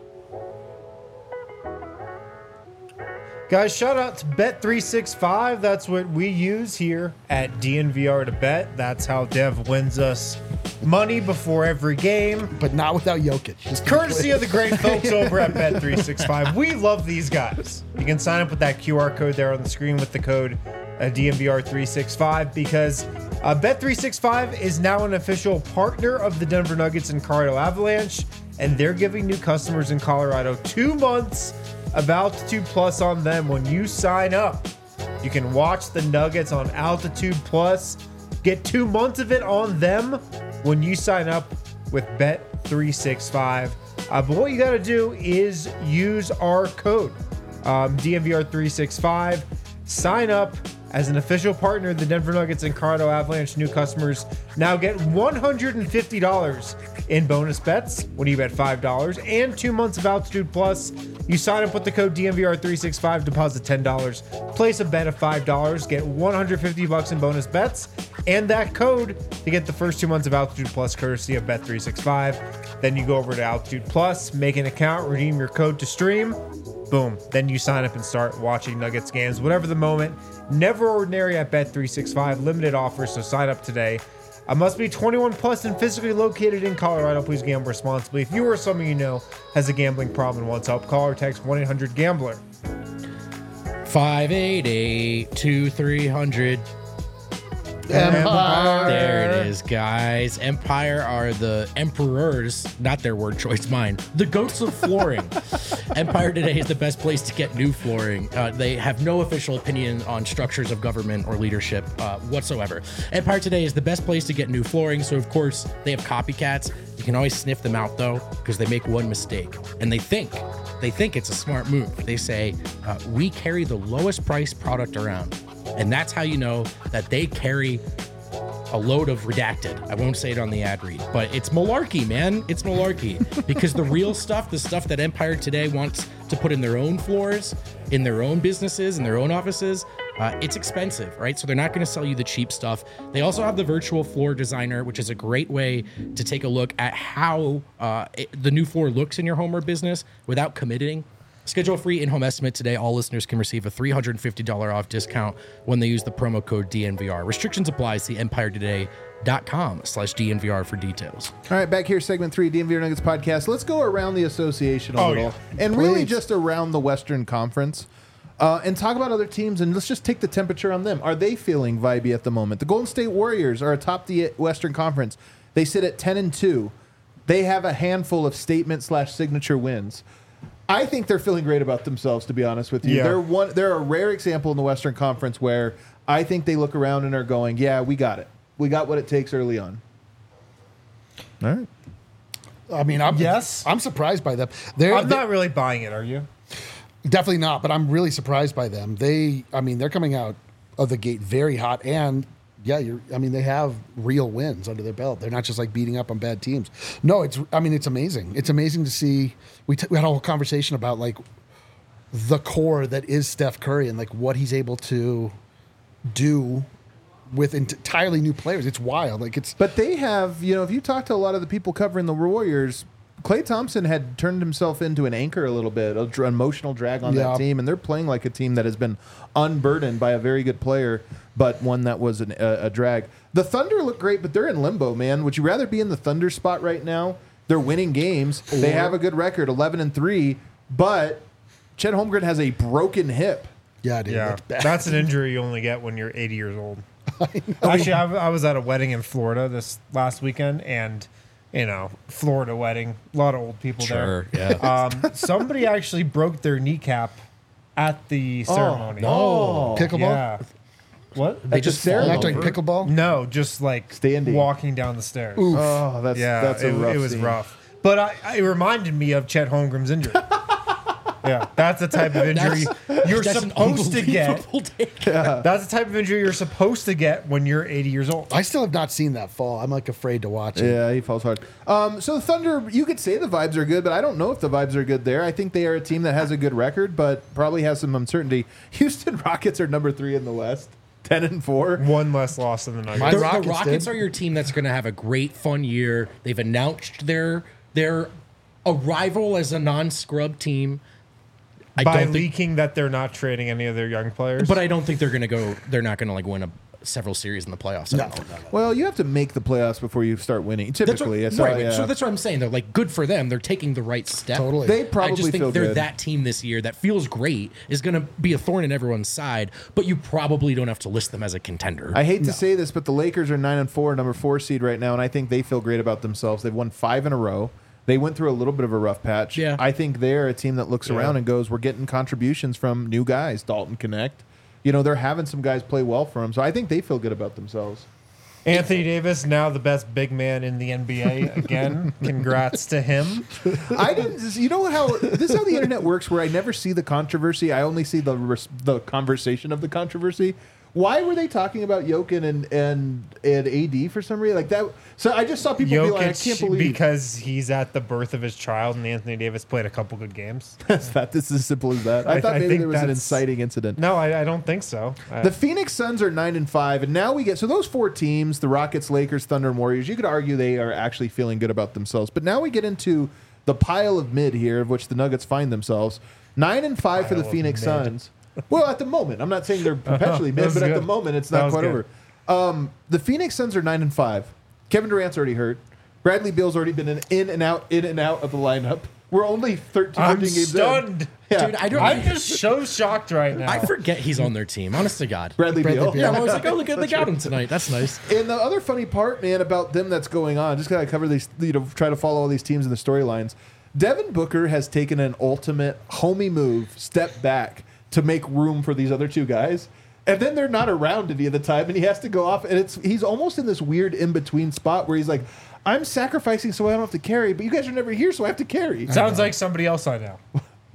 Guys, shout out to Bet365. That's what we use here at DNVR to bet. That's how Dev wins us money before every game. But not without Jokic. Just to be Courtesy clear. of the great folks over at Bet365. We love these guys. You can sign up with that QR code there on the screen with the code DNVR365 because Bet365 is now an official partner of the Denver Nuggets and Colorado Avalanche, and they're giving new customers in Colorado 2 months of Altitude Plus on them when you sign up. You can watch the Nuggets on Altitude Plus. Get 2 months of it on them when you sign up with Bet365. But what you got to do is use our code, DNVR365. Sign up as an official partner of the Denver Nuggets and Colorado Avalanche. New customers now get $150 in bonus bets when you bet $5 and 2 months of Altitude Plus. You sign up with the code DNVR365, deposit $10, place a bet of $5, get $150 in bonus bets, and that code to get the first 2 months of Altitude Plus courtesy of Bet365. Then you go over to Altitude Plus, make an account, redeem your code to stream. Boom. Then you sign up and start watching Nuggets games, whatever the moment. Never ordinary at Bet365. Limited offers, so sign up today. Must be 21 plus and physically located in Colorado. Please gamble responsibly. If you or someone you know has a gambling problem and wants help, call or text 1-800-GAMBLER. 588-2300. Empire. There it is, guys. Empire are the emperors, not their word choice, mine. The goats of flooring. Empire Today is the best place to get new flooring. They have no official opinion on structures of government or leadership whatsoever. Empire Today is the best place to get new flooring. So, of course, they have copycats. You can always sniff them out, though, because they make one mistake. And they think it's a smart move. They say, we carry the lowest price product around. And that's how you know that they carry a load of redacted. I won't say it on the ad read, but it's malarkey, man. It's malarkey because the real stuff, the stuff that Empire Today wants to put in their own floors, in their own businesses, in their own offices, it's expensive, right? So they're not going to sell you the cheap stuff. They also have the virtual floor designer, which is a great way to take a look at how the new floor looks in your home or business without committing. Schedule a free in-home estimate today. All listeners can receive a $350 off discount when they use the promo code DNVR. Restrictions apply. See EmpireToday.com/DNVR for details. All right, back here, segment 3, DNVR Nuggets podcast. Let's go around the association a little, and really just around the Western Conference, and talk about other teams. And let's just take the temperature on them. Are they feeling vibey at the moment? The Golden State Warriors are atop the Western Conference. They sit at 10-2. They have a handful of statement/signature wins. I think they're feeling great about themselves, to be honest with you. Yeah. They're a rare example in the Western Conference where I think they look around and are going, yeah, we got it. We got what it takes early on. All right. I mean, I'm surprised by them. I'm not really buying it, are you? Definitely not, but I'm really surprised by them. They're coming out of the gate very hot, and yeah, I mean, they have real wins under their belt. They're not just like beating up on bad teams. No, it's amazing. It's amazing to see. We had a whole conversation about like the core that is Steph Curry and like what he's able to do with entirely new players. It's wild. Like But they have, if you talk to a lot of the people covering the Warriors, Klay Thompson had turned himself into an anchor a little bit, an emotional drag on that team, and they're playing like a team that has been unburdened by a very good player, but one that was a drag. The Thunder look great, but they're in limbo, man. Would you rather be in the Thunder spot right now? They're winning games. They have a good record, 11-3, but Chet Holmgren has a broken hip. Yeah, dude. Yeah, That's bad. an injury you only get when you're 80 years old. Actually, I was at a wedding in Florida this last weekend, and Florida wedding, a lot of old people Sure, there. yeah. Somebody actually broke their kneecap at the ceremony. Oh, Pickleball? Yeah. What? They At just the fall Not doing over. pickleball? No, just like Standing. walking down the stairs. Oh, that's a rough it was scene. rough. But it reminded me of Chet Holmgren's injury. Yeah, that's the type of injury you're That's an supposed to get. unbelievable take. That's the type of injury you're supposed to get when you're 80 years old. I still have not seen that fall. I'm like afraid to watch it. Yeah, he falls hard. So the Thunder, you could say the vibes are good, but I don't know if the vibes are good there. I think they are a team that has a good record, but probably has some uncertainty. Houston Rockets are number 3 in the West, 10-4. One less loss than the Nuggets. My The Rockets Rockets did. are your team that's going to have a great, fun year. They've announced their arrival as a non-scrub team. I By don't think, leaking that they're not trading any of their young players. but I don't think they're going to go. They're not going to like win several series in the playoffs. I don't think. Well, you have to make the playoffs before you start winning. Typically, That's so, what, right. yeah. So that's what I'm saying. They're like good for them. They're taking the right step. Totally. They I probably just think feel they're good. that team this year that feels great, is going to be a thorn in everyone's side, but you probably don't have to list them as a contender. I hate to say this, but the Lakers are 9-4, number 4 seed right now, and I think they feel great about themselves. They've won 5 in a row. They went through a little bit of a rough patch. Yeah. I think they're a team that looks around and goes, we're getting contributions from new guys, Dalton Connect. They're having some guys play well for them. So I think they feel good about themselves. Anthony Davis, now the best big man in the NBA again. Congrats to him. I didn't. You know how this is how the internet works, where I never see the controversy. I only see the conversation of the controversy. Why were they talking about Jokic and AD for some reason like that? So I just saw people be like, I can't Jokic, believe because he's at the birth of his child, and Anthony Davis played a couple good games. that. This is as simple as that. I thought I maybe think there was an that's- inciting incident. No, I don't think so. The Phoenix Suns are 9-5, and now we get those 4 teams: the Rockets, Lakers, Thunder, and Warriors. You could argue they are actually feeling good about themselves, but now we get into the pile of mid here, of which the Nuggets find themselves. 9-5 for the Pile of Phoenix mid. Suns. Well, at the moment, I'm not saying they're perpetually mid, That's but at the good. moment, it's That not was quite good. over. The Phoenix Suns are 9-5. Kevin Durant's already hurt. Bradley Beal's already been in and out of the lineup. We're only 13 I'm games in. stunned. Yeah. Dude, I don't. I'm just so shocked right now. I forget he's on their team. Honest to God. Bradley Beal. Yeah, I was like, oh, look at they got him tonight. That's nice. And the other funny part, man, about them that's going on, just gotta cover these, try to follow all these teams and the storylines. Devin Booker has taken an ultimate homie move, step back to make room for these other 2 guys. And then they're not around any of the time, and he has to go off. And he's almost in this weird in-between spot where he's like, I'm sacrificing so I don't have to carry, but you guys are never here, so I have to carry. Sounds like somebody else I know.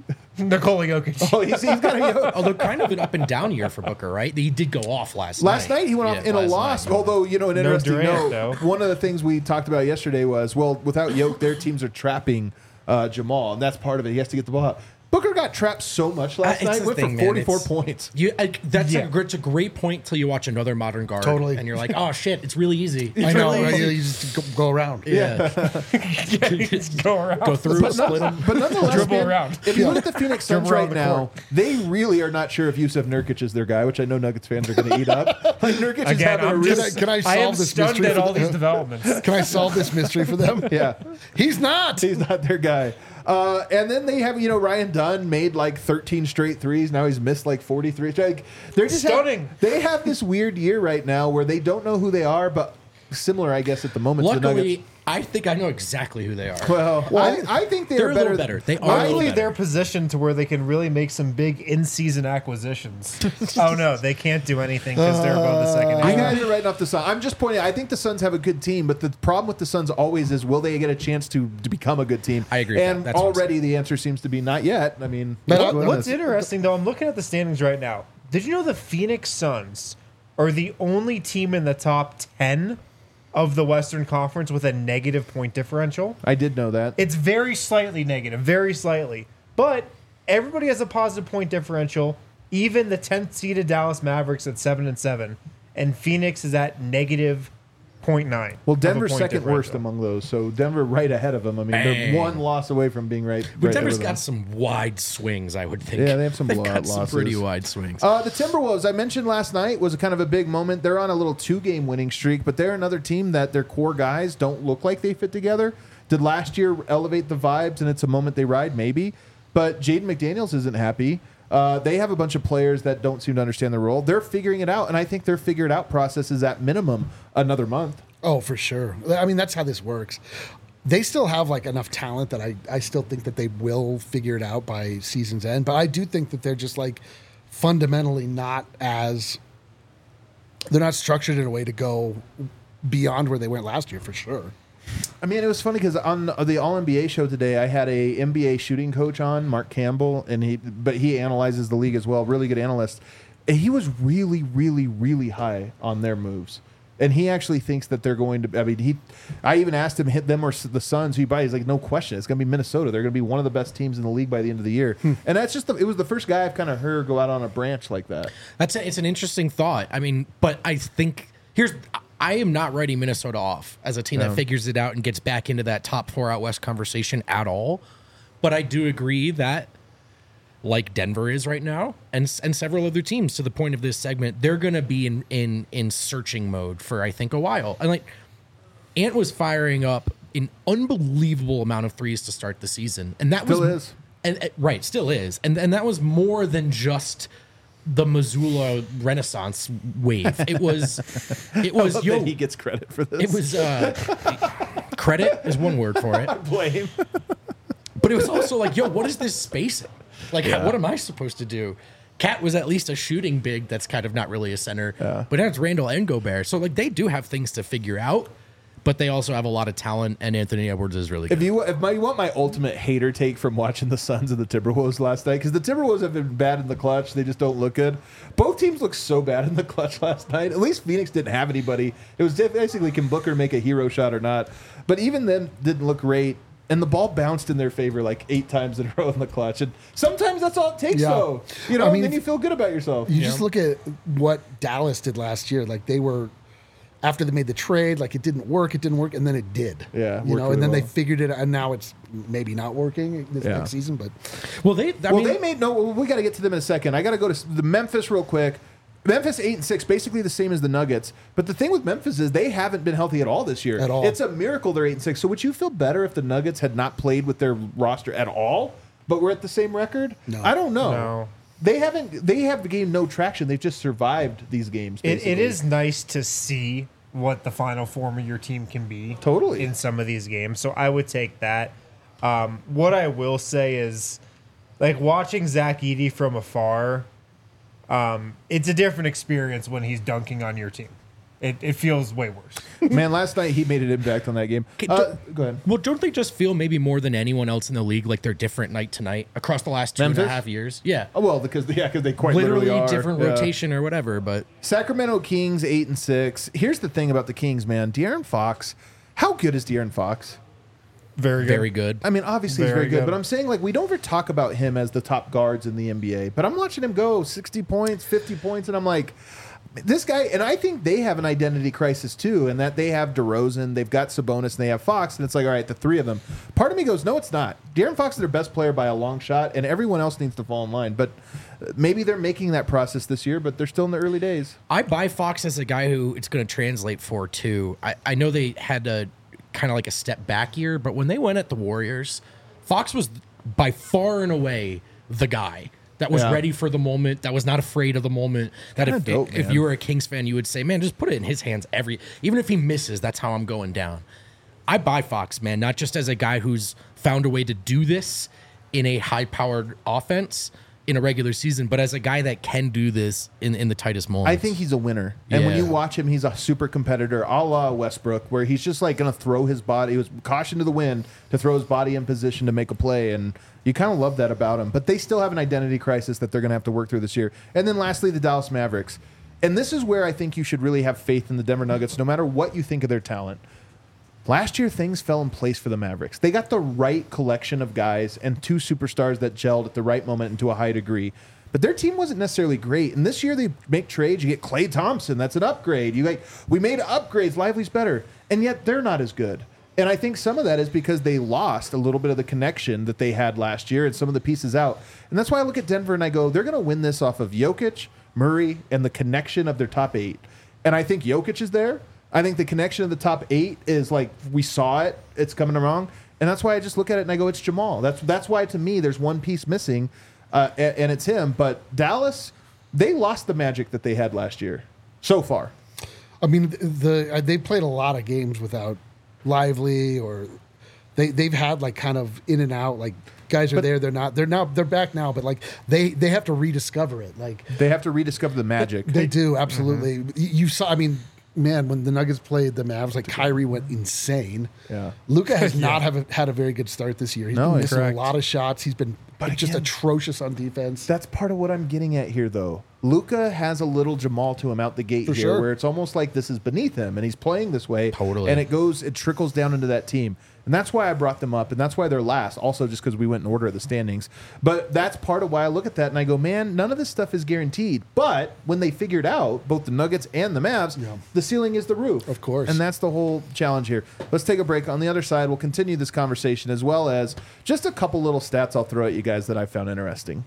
Nikola Jokic. Oh, he's got to go. Although kind of an up and down year for Booker, right? He did go off last Last night he went off Yeah, in a last loss. night. Although, an interesting Durant, note, though. one of the things we talked about yesterday was, well, without Yoke, their teams are trapping Jamal, and that's part of it. He has to get the ball out. Booker got trapped so much last It's night, the went thing, for man. 44 It's- points. That's Yeah. it's a great point till you watch another modern guard. Totally. And you're like, oh shit, it's really easy. I know. really Right? easy. You just go around. Yeah. Just go around. Go through, split him. But nonetheless, Dribble man, around. if you look at the Phoenix Suns Dribble around right the now, court. they really are not sure if Yusuf Nurkic is their guy, which I know Nuggets fans are going to eat up. Like Nurkic is Again, having a I'm real... just, Can I I solve am this stunned mystery at for all the- these developments. Can I solve this mystery for them? Yeah. He's not. He's not their guy. And then they have, Ryan Dunn made like 13 straight threes. Now he's missed like 43. Like, they're just Stunning. They have this weird year right now where they don't know who they are, but similar, I guess, at the moment. to the Nuggets. Luckily, I think I know exactly who they are. Well, I think they're they're a better. little better. They are a Luckily, little better. they're positioned to where they can really make some big in-season acquisitions. Oh no, they can't do anything because they're above the second. You half. guys are writing off the Suns. I'm just pointing out, I think the Suns have a good team, but the problem with the Suns always is, will they get a chance to become a good team? I agree with And that. That's what I'm already the answer seems to be not yet. I mean, But let's go on What's this. interesting though, I'm looking at the standings right now. Did you know the Phoenix Suns are the only team in the top 10 of the Western Conference with a negative point differential. I did know that. It's very slightly negative, very slightly. But everybody has a positive point differential. Even the 10th seeded Dallas Mavericks at 7-7, and Phoenix is at negative 0.9. Well, Denver's second worst among those, so Denver right ahead of them. I mean, they're one loss away from being right. But right Denver's with got them. some wide swings, I would think. Yeah, they have some They've blowout got some losses. pretty wide swings. The Timberwolves, I mentioned last night, was a kind of a big moment. They're on a little 2-game winning streak, but they're another team that their core guys don't look like they fit together. Did last year elevate the vibes, and it's a moment they ride? Maybe. But Jaden McDaniels isn't happy. They have a bunch of players that don't seem to understand the role. They're figuring it out, and I think their figured out process is at minimum another month. Oh, for sure. I mean, that's how this works. They still have like enough talent that I still think that they will figure it out by season's end. But I do think that they're just like fundamentally not they're not structured in a way to go beyond where they went last year for sure. I mean, it was funny because on the All NBA show today, I had a NBA shooting coach on, Mark Campbell, and he analyzes the league as well. Really good analyst. And he was really, really, really high on their moves. And he actually thinks that they're going to. I mean, I even asked him hit them or the Suns. Who you buy? He's like, no question, it's going to be Minnesota. They're going to be one of the best teams in the league by the end of the year. And that's just it was the first guy I've kind of heard go out on a branch like that. It's an interesting thought. I mean, but I think I am not writing Minnesota off as a team that figures it out and gets back into that top 4 out west conversation at all. But I do agree that, like Denver is right now, and several other teams to the point of this segment, they're going to be in searching mode for, I think, a while. And like Ant was firing up an unbelievable amount of threes to start the season, and that Still is. Right, still is, and that was more than just the Missoula Renaissance wave. It was That he gets credit for this. it was credit is one word for it. blame. But it was also like, yo, what is this spacing? Like, what am I supposed to do? Cat was at least a shooting big that's kind of not really a center. But now it's Randall and Gobert. So, like, they do have things to figure out, but they also have a lot of talent, and Anthony Edwards is really good. If you want my ultimate hater take from watching the Suns and the Timberwolves last night, because the Timberwolves have been bad in the clutch, they just don't look good. Both teams looked so bad in the clutch last night. At least Phoenix didn't have anybody. It was basically, can Booker make a hero shot or not? But even them didn't look great. And the ball bounced in their favor like 8 times in a row in the clutch. And sometimes that's all it takes, though. You know, I mean, then you feel good about yourself. You just look at what Dallas did last year. Like they were, after they made the trade, like it didn't work, and then it did. Yeah, you know, worked and then really they figured it out, and now it's maybe not working this next season. But they made we got to get to them in a second. I got to go to the Memphis real quick. Memphis 8-6, basically the same as the Nuggets. But the thing with Memphis is they haven't been healthy at all this year. At all. It's a miracle they're 8-6. So would you feel better if the Nuggets had not played with their roster at all, but were at the same record? No. I don't know. No. They have gained no traction. They've just survived these games. It basically. is nice to see what the final form of your team can be. Totally. In some of these games. So I would take that. What I will say is, like, watching Zach Edey from afar, it's a different experience when he's dunking on your team. It feels way worse. Man, last night he made an impact on that game. Go ahead. Well, don't they just feel maybe more than anyone else in the league like they're different night to night across the last 2.5 years? Yeah. Oh, well, because they quite Literally are. different rotation or whatever, but Sacramento Kings 8-6. Here's the thing about the Kings, man. De'Aaron Fox. How good is De'Aaron Fox? very good. I mean, obviously he's Very very good, good. but I'm saying, like, we don't ever talk about him as the top guards in the NBA. But I'm watching him go 60 points, 50 points, and I'm like, this guy, and I think they have an identity crisis too, and that they have DeRozan, they've got Sabonis, and they have Fox, and it's like, all right, the three of them. Part of me goes, no, it's not. De'Aaron Fox is their best player by a long shot, and everyone else needs to fall in line. But maybe they're making that process this year, but they're still in the early days. I buy Fox as a guy who it's going to translate for too. I know they had a kind of like a step back year, but when they went at the Warriors, Fox was by far and away the guy that was ready for the moment, that was not afraid of the moment. That if you were a Kings fan, you would say, man, just put it in his hands even if he misses, that's how I'm going down. I buy Fox, man, not just as a guy who's found a way to do this in a high-powered offense in a regular season, but as a guy that can do this in the tightest moments. I think he's a winner. And when you watch him, he's a super competitor, a la Westbrook, where he's just like going to throw his body. He was caution to the wind to throw his body in position to make a play. And you kind of love that about him. But they still have an identity crisis that they're going to have to work through this year. And then lastly, the Dallas Mavericks. And this is where I think you should really have faith in the Denver Nuggets, no matter what you think of their talent. Last year, things fell in place for the Mavericks. They got the right collection of guys and 2 superstars that gelled at the right moment and to a high degree. But their team wasn't necessarily great. And this year, they make trades. You get Klay Thompson. That's an upgrade. We made upgrades. Lively's better. And yet, they're not as good. And I think some of that is because they lost a little bit of the connection that they had last year and some of the pieces out. And that's why I look at Denver and I go, they're going to win this off of Jokic, Murray, and the connection of their top 8. And I think Jokic is there. I think the connection of the top 8 is like, we saw it. It's coming along. And that's why I just look at it and I go, it's Jamal. That's why, to me, there's one piece missing, and it's him. But Dallas, they lost the magic that they had last year so far. I mean, they played a lot of games without Lively, or they've had like kind of in and out, like guys are there, they're back now, but like they have to rediscover it. Like they have to rediscover the magic. They do, absolutely. You saw, I mean, man, when the Nuggets played the Mavs, like Kyrie went insane. Yeah. Luka has not had a very good start this year. He's been missing a lot of shots. He's been just atrocious on defense. That's part of what I'm getting at here, though. Luka has a little Jamal to him out the gate here, where it's almost like this is beneath him, and he's playing this way. Totally. And it trickles down into that team. And that's why I brought them up, and that's why they're last, also just because we went in order of the standings. But that's part of why I look at that and I go, man, none of this stuff is guaranteed. But when they figured out, both the Nuggets and the Mavs, the ceiling is the roof. Of course. And that's the whole challenge here. Let's take a break. On the other side, we'll continue this conversation, as well as just a couple little stats I'll throw at you guys that I found interesting.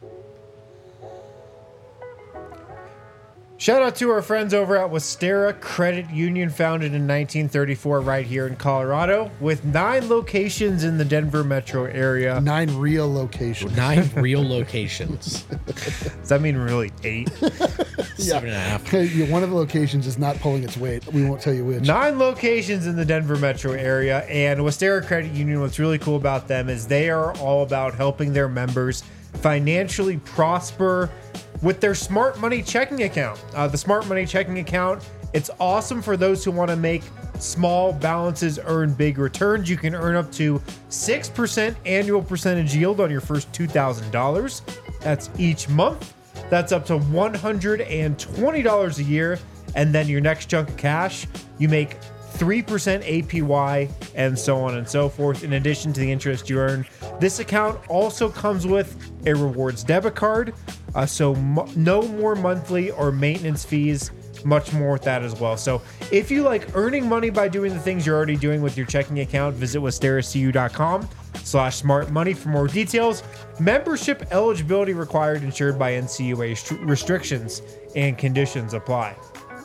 Shout out to our friends over at Westera Credit Union, founded in 1934 right here in Colorado, with 9 locations in the Denver metro area. 9 real locations. 9 real locations. Does that mean really 8? 7.5. Yeah, one of the locations is not pulling its weight. We won't tell you which. 9 locations in the Denver metro area, and Westera Credit Union, what's really cool about them is they are all about helping their members financially prosper with their Smart Money checking account. The Smart Money checking account, it's awesome for those who want to make small balances earn big returns. You can earn up to 6% annual percentage yield on your first $2,000. That's each month. That's up to $120 a year. And then your next chunk of cash, you make 3% APY, and so on and so forth, in addition to the interest you earn. This account also comes with a rewards debit card, so no more monthly or maintenance fees, much more with that as well. So if you like earning money by doing the things you're already doing with your checking account, visit westeracu.com/smartmoney for more details. Membership eligibility required, insured by NCUA. Restrictions and conditions apply.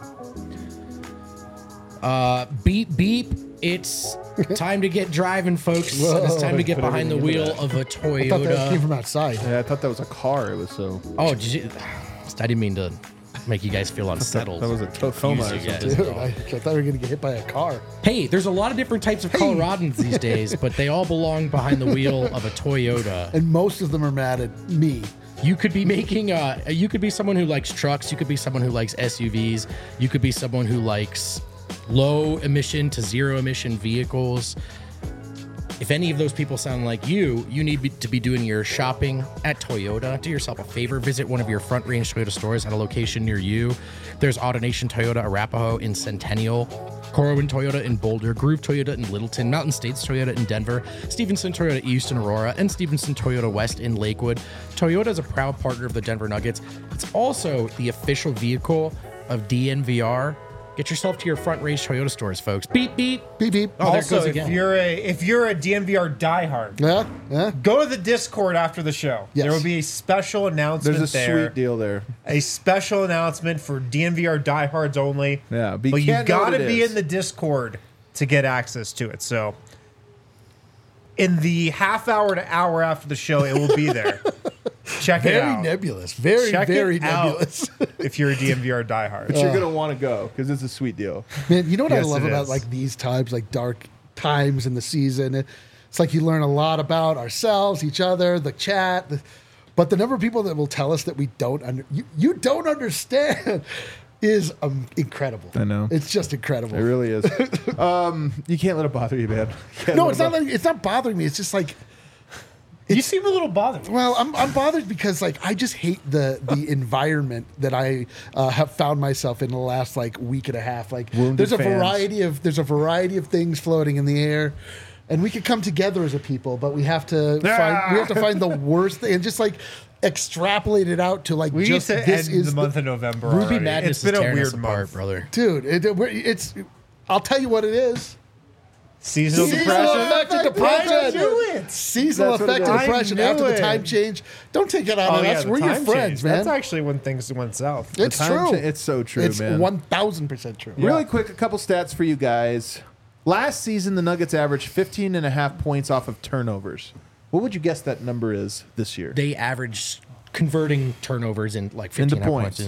Beep, beep. It's time to get driving, folks. It's time to get behind the wheel of a I thought that came Toyota. from outside. Yeah, I thought that was a car. It was so... Oh, did you? I didn't mean to make you guys feel unsettled. That was a Tacoma or Confuse you guys. something. Dude, I thought we were going to get hit by a car. Hey, there's a lot of different types of Coloradans these days, but they all belong behind the wheel of a Toyota. And most of them are mad at me. You could be making you could be someone who likes trucks, you could be someone who likes SUVs, you could be someone who likes low emission to zero emission vehicles. If any of those people sound like you need to be doing your shopping at Toyota. Do yourself a favor, visit one of your Front Range Toyota stores at a location near you. There's AutoNation Toyota Arapahoe in Centennial, Corwin Toyota in Boulder, Groove Toyota in Littleton, Mountain States Toyota in Denver, Stevenson Toyota East in Aurora, and Stevenson Toyota West in Lakewood. Toyota is a proud partner of the Denver Nuggets. It's also the official vehicle of DNVR. Get yourself to your Front Range Toyota stores, folks. Beep, beep. Beep, beep. Oh, there it Also, goes again. if you're a DNVR diehard, Yeah. go to the Discord after the show. Yes. There will be a special announcement There's a there. sweet deal there. A special announcement for DNVR diehards only. Yeah, but you but you can't know what gotta it be is. in the Discord to get access to it. So in the half hour to hour after the show, it will be there. Check it Very out. nebulous. Very, Check very it out nebulous. if you're a DNVR diehard. But you're going to want to go because it's a sweet deal. Man, you know what Yes, I love it about is. like these times, like dark times in the season? It's like you learn a lot about ourselves, each other, the chat, but the number of people that will tell us that we don't you don't understand is incredible. I know. It's just incredible. It really is. You can't let it bother you, man. No, it's not bothering me. It's just like You seem a little bothered. Well, I'm bothered because like I just hate the environment that I have found myself in the last like week and a half. Like Wounded there's a fans. variety of things floating in the air, and we could come together as a people, but we have to find the worst thing and just like extrapolate it out to like We just used to this end is the month of November. Ruby already. Madness It's been is a tearing us weird apart, month, brother. dude. It's I'll tell you what it is. Seasonal depression. affected depression. I knew it. Seasonal That's what it affected is. depression I knew after the it. time change. Don't take it out Oh on yeah, us. the We're your time friends, change. man. That's actually when things went south. It's Time true. cha- it's so true, It's man. 1,000% true. Really quick, a couple stats for you guys. Last season, the Nuggets averaged 15.5 points off of turnovers. What would you guess that number is this year? They average converting turnovers in like 15 Into points.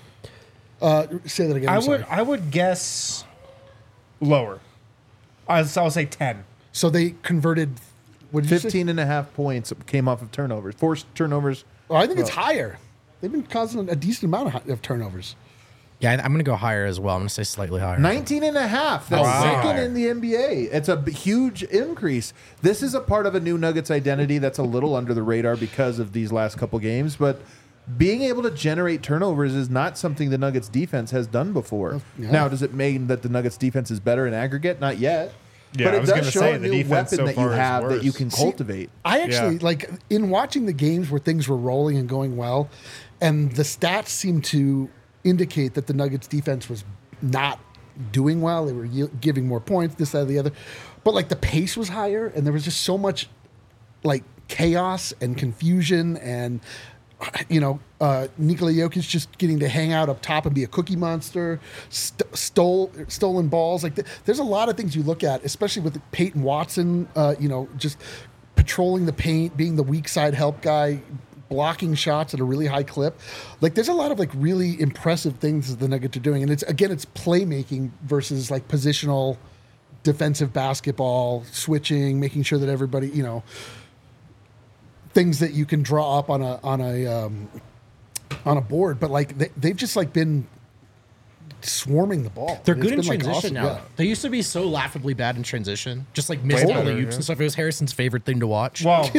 Say that again. I I'm sorry. would guess lower. I'll say 10. So they converted. What did you say? 15.5 points came off of turnovers. Forced turnovers. Oh, I think it's higher. They've been causing a decent amount of turnovers. Yeah, I'm going to go higher as well. I'm going to say slightly higher. 19.5. That's Wow. second in the NBA. It's a huge increase. This is a part of a new Nuggets identity that's a little under the radar because of these last couple games, but being able to generate turnovers is not something the Nuggets defense has done before. Yeah. Now, does it mean that the Nuggets defense is better in aggregate? Not yet. Yeah, but I it was does gonna show say, a the new defense weapon so that you far is have that you worse. can See, cultivate. I actually Yeah. like in watching the games where things were rolling and going well, and the stats seem to indicate that the Nuggets defense was not doing well. They were giving more points, this, that, the other. But like the pace was higher, and there was just so much like chaos and confusion, and Nikola Jokic just getting to hang out up top and be a cookie monster, stolen balls. Like there's a lot of things you look at, especially with Peyton Watson. Just patrolling the paint, being the weak side help guy, blocking shots at a really high clip. Like there's a lot of like really impressive things that the Nuggets are doing, and it's playmaking versus like positional defensive basketball, switching, making sure that everybody things that you can draw up on a board. But like they've just like been swarming the ball. They're It's good in been, like, transition awesome. now. Yeah. though. They used to be so laughably bad in transition, just like missed Way alley better, oops yeah. and stuff. It was Harrison's favorite thing to watch. Well,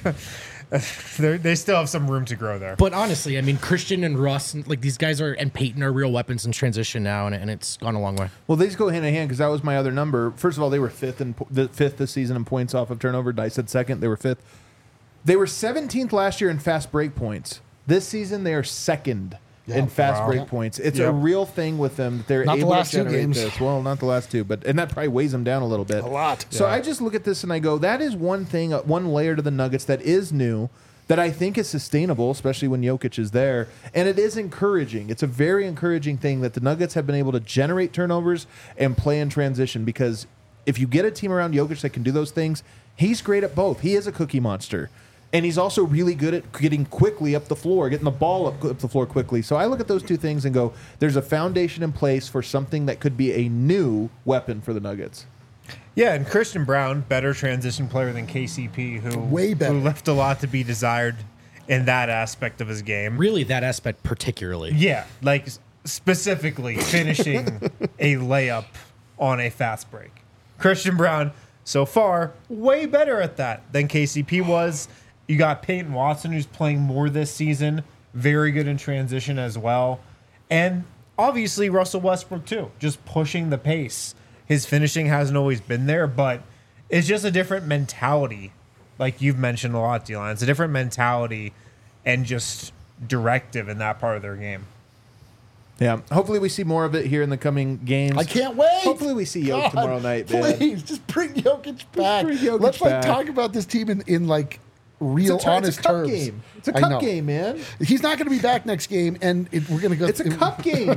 they still have some room to grow there. But honestly, I mean, Christian and Russ, like these guys and Peyton are real weapons in transition now, and it's gone a long way. Well, these go hand in hand because that was my other number. First of all, they were fifth this season in points off of turnover. I said second. They were fifth. They were 17th last year in fast break points. This season, they are second in fast wow. break points. It's a Yep. real thing with them. They're Not the able last to two generate games. this. Well, not the last two, and that probably weighs them down a little bit. A lot. So Yeah. I just look at this and I go, that is one thing, one layer to the Nuggets that is new, that I think is sustainable, especially when Jokic is there. And it is encouraging. It's a very encouraging thing that the Nuggets have been able to generate turnovers and play in transition, because if you get a team around Jokic that can do those things, he's great at both. He is a cookie monster. And he's also really good at getting quickly up the floor, getting the ball up the floor quickly. So I look at those two things and go, there's a foundation in place for something that could be a new weapon for the Nuggets. Yeah, and Christian Brown, better transition player than KCP, who Way better. who left a lot to be desired in that aspect of his game. Really, that aspect particularly. Yeah, like specifically finishing a layup on a fast break. Christian Brown, so far, way better at that than KCP was. You got Peyton Watson, who's playing more this season, very good in transition as well. And obviously Russell Westbrook too, just pushing the pace. His finishing hasn't always been there, but it's just a different mentality. Like you've mentioned a lot, D-Line. It's a different mentality and just directive in that part of their game. Yeah. Hopefully we see more of it here in the coming games. I can't wait. Hopefully we see Jokic God, tomorrow night, man. Please, just bring Jokic back. bring Jokic Let's like back. talk about this team in like real It's honest a cup terms. game. It's a I cup know. game, man. He's not going to be back next game, and we're going to go. It's a cup game.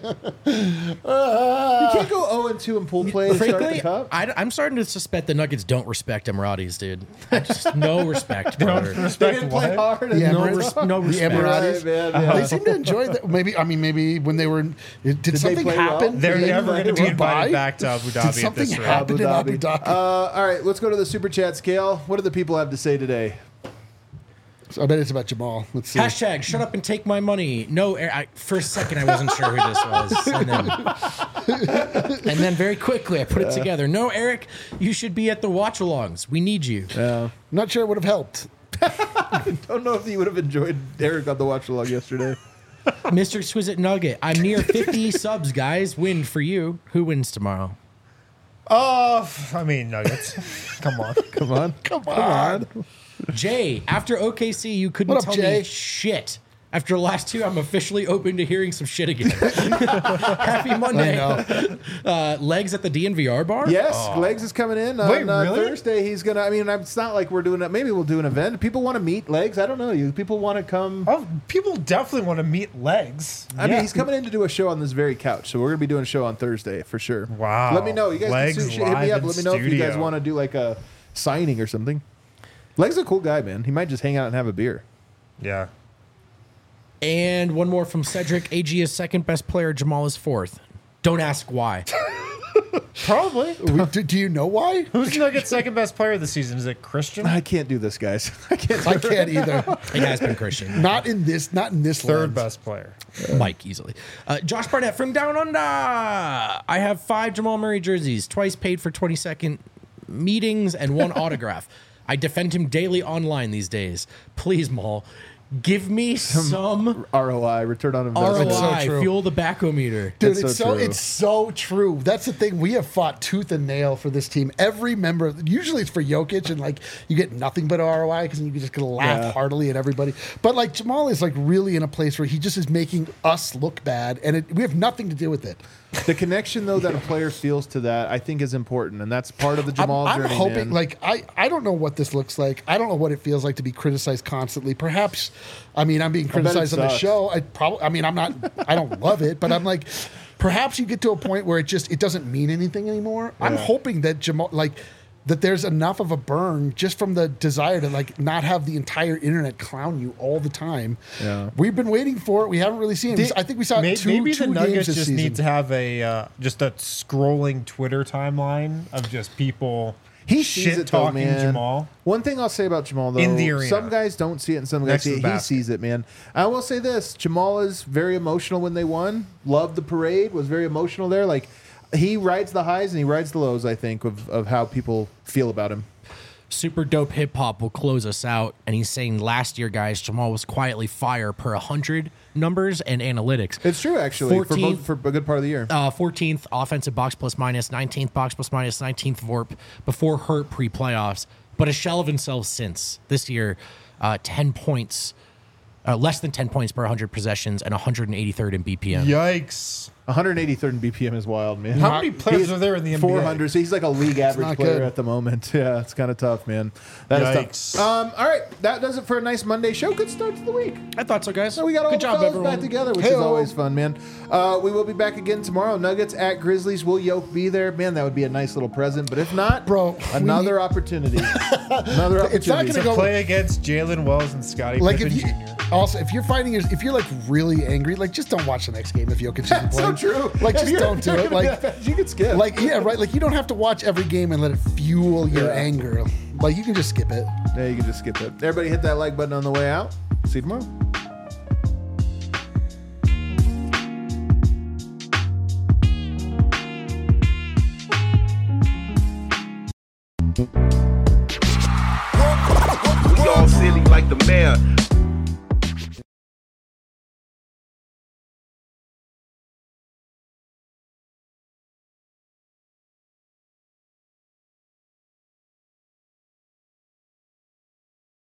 You can't go 0-2 in pool play to start the Frankly, cup. I'm starting to suspect the Nuggets don't respect Emiratis, dude. Just no respect, brother. They didn't play hard. The No Emirates, no the respect. Emiratis. Right, man, yeah. They seem to enjoy that. Maybe when they were. Did something play well? happen? They're in never going to be Dubai? invited back to Abu Dhabi Did at something this rate. happen in Abu Dhabi? All right, let's go to the Super Chat scale. What do the people have to say today? I bet it's about Jamal. Let's see. Hashtag shut up and take my money. No, for a second I wasn't sure who this was. And then very quickly I put it together. No, Eric, you should be at the watch-alongs. We need you. I'm not sure it would have helped. Don't know if you would have enjoyed Eric on the watch along yesterday. Mr. Exquisite Nugget, I'm near 50 subs, guys. Win for you. Who wins tomorrow? I mean, Nuggets. Come on. Come on. Jay, after OKC, you couldn't What up, tell Jay? me shit. After the last two, I'm officially open to hearing some shit again. Happy Monday. Legs at the DNVR bar? Yes, Legs is coming in on Wait, really? Thursday. He's gonna. I mean, it's not like we're doing it. Maybe we'll do an event. People want to meet Legs. I don't know. You people want to come. Oh, people definitely want to meet Legs. I mean, he's coming in to do a show on this very couch, so we're gonna be doing a show on Thursday for sure. Wow. Let me know. You guys Legs can hit me live up. in Let me know if you guys studio. want to do like a signing or something. Legs is a cool guy, man. He might just hang out and have a beer. Yeah. And one more from Cedric. AG is second best player. Jamal is fourth. Don't ask why. Probably. Do you know why? Who's Nuggets' second best player this season? Is it Christian? I can't do this, guys. I can't. I can't either. It has been Christian. Not in this Third lens. best player. Mike easily. Josh Barnett from Down Under. I have 5 Jamal Murray jerseys, twice paid for 22nd meetings, and 1 autograph. I defend him daily online these days. Please, Maul, give me some ROI, return on investment. ROI. so true. Fuel the backometer. Dude, That's it's so so true. it's so true. That's the thing. We have fought tooth and nail for this team. Every member, usually it's for Jokic, and like you get nothing but ROI because you just gonna laugh Yeah. heartily at everybody. But like Jamal is like really in a place where he just is making us look bad, and we have nothing to do with it. The connection, though, that a player feels to that, I think, is important, and that's part of the Jamal I'm journey. hoping, man. like, I don't know what this looks like. I don't know what it feels like to be criticized constantly. Perhaps, I mean, I'm being bet it criticized on the sucks. show. I don't love it, but I'm like, perhaps you get to a point where it doesn't mean anything anymore. I'm hoping that Jamal, like, that there's enough of a burn just from the desire to like not have the entire internet clown you all the time. Yeah. We've been waiting for it. We haven't really seen it. I think we saw Maybe, two maybe the games Nuggets this just season. need to have a just a scrolling Twitter timeline of just people he sees shit it, though, talking man. Jamal. One thing I'll say about Jamal, though, In the arena. some guys don't see it and some guys Next see to it. the He basket. sees it, man. I will say this. Jamal is very emotional when they won. Loved the parade. Was very emotional there. Like, he rides the highs and he rides the lows, I think, of how people feel about him. Super Dope Hip Hop will close us out, and he's saying last year, guys, Jamal was quietly fire per 100 numbers and analytics. It's true, actually, 14th for a good part of the year. 14th offensive box plus minus, 19th box plus minus, 19th VORP before hurt pre-playoffs, but a shell of himself since. This year, 10 points, less than 10 points per 100 possessions, and 183rd in BPM. Yikes. 183rd in BPM is wild, man. How many players are there in the NBA? 400. So he's like a league average not player good. at the moment. Yeah, it's kind of tough, man. That is Yikes. tough. All right, that does it for a nice Monday show. Good start to the week. I thought so, guys. So we got all Good the job, fellas everyone. back together, which is Hey-o. always fun, man. We will be back again tomorrow. Nuggets at Grizzlies. Will Yoke be there? Man, that would be a nice little present. But if not, Bro, another opportunity. Another opportunity. It's not gonna go- Play against Jalen Wells and Scottie Like Pippen if you Jr. also if you're like really angry, like just don't watch the next game if Jokic isn't That's so playing. true. Like If just you're- don't do you're it. gonna be Like that fast, you can skip. Like yeah, right. Like you don't have to watch every game and let it fuel your Yeah. anger. Like you can just skip it. Yeah, you can just skip it. Everybody hit that like button on the way out. See you tomorrow. We all silly like the mayor.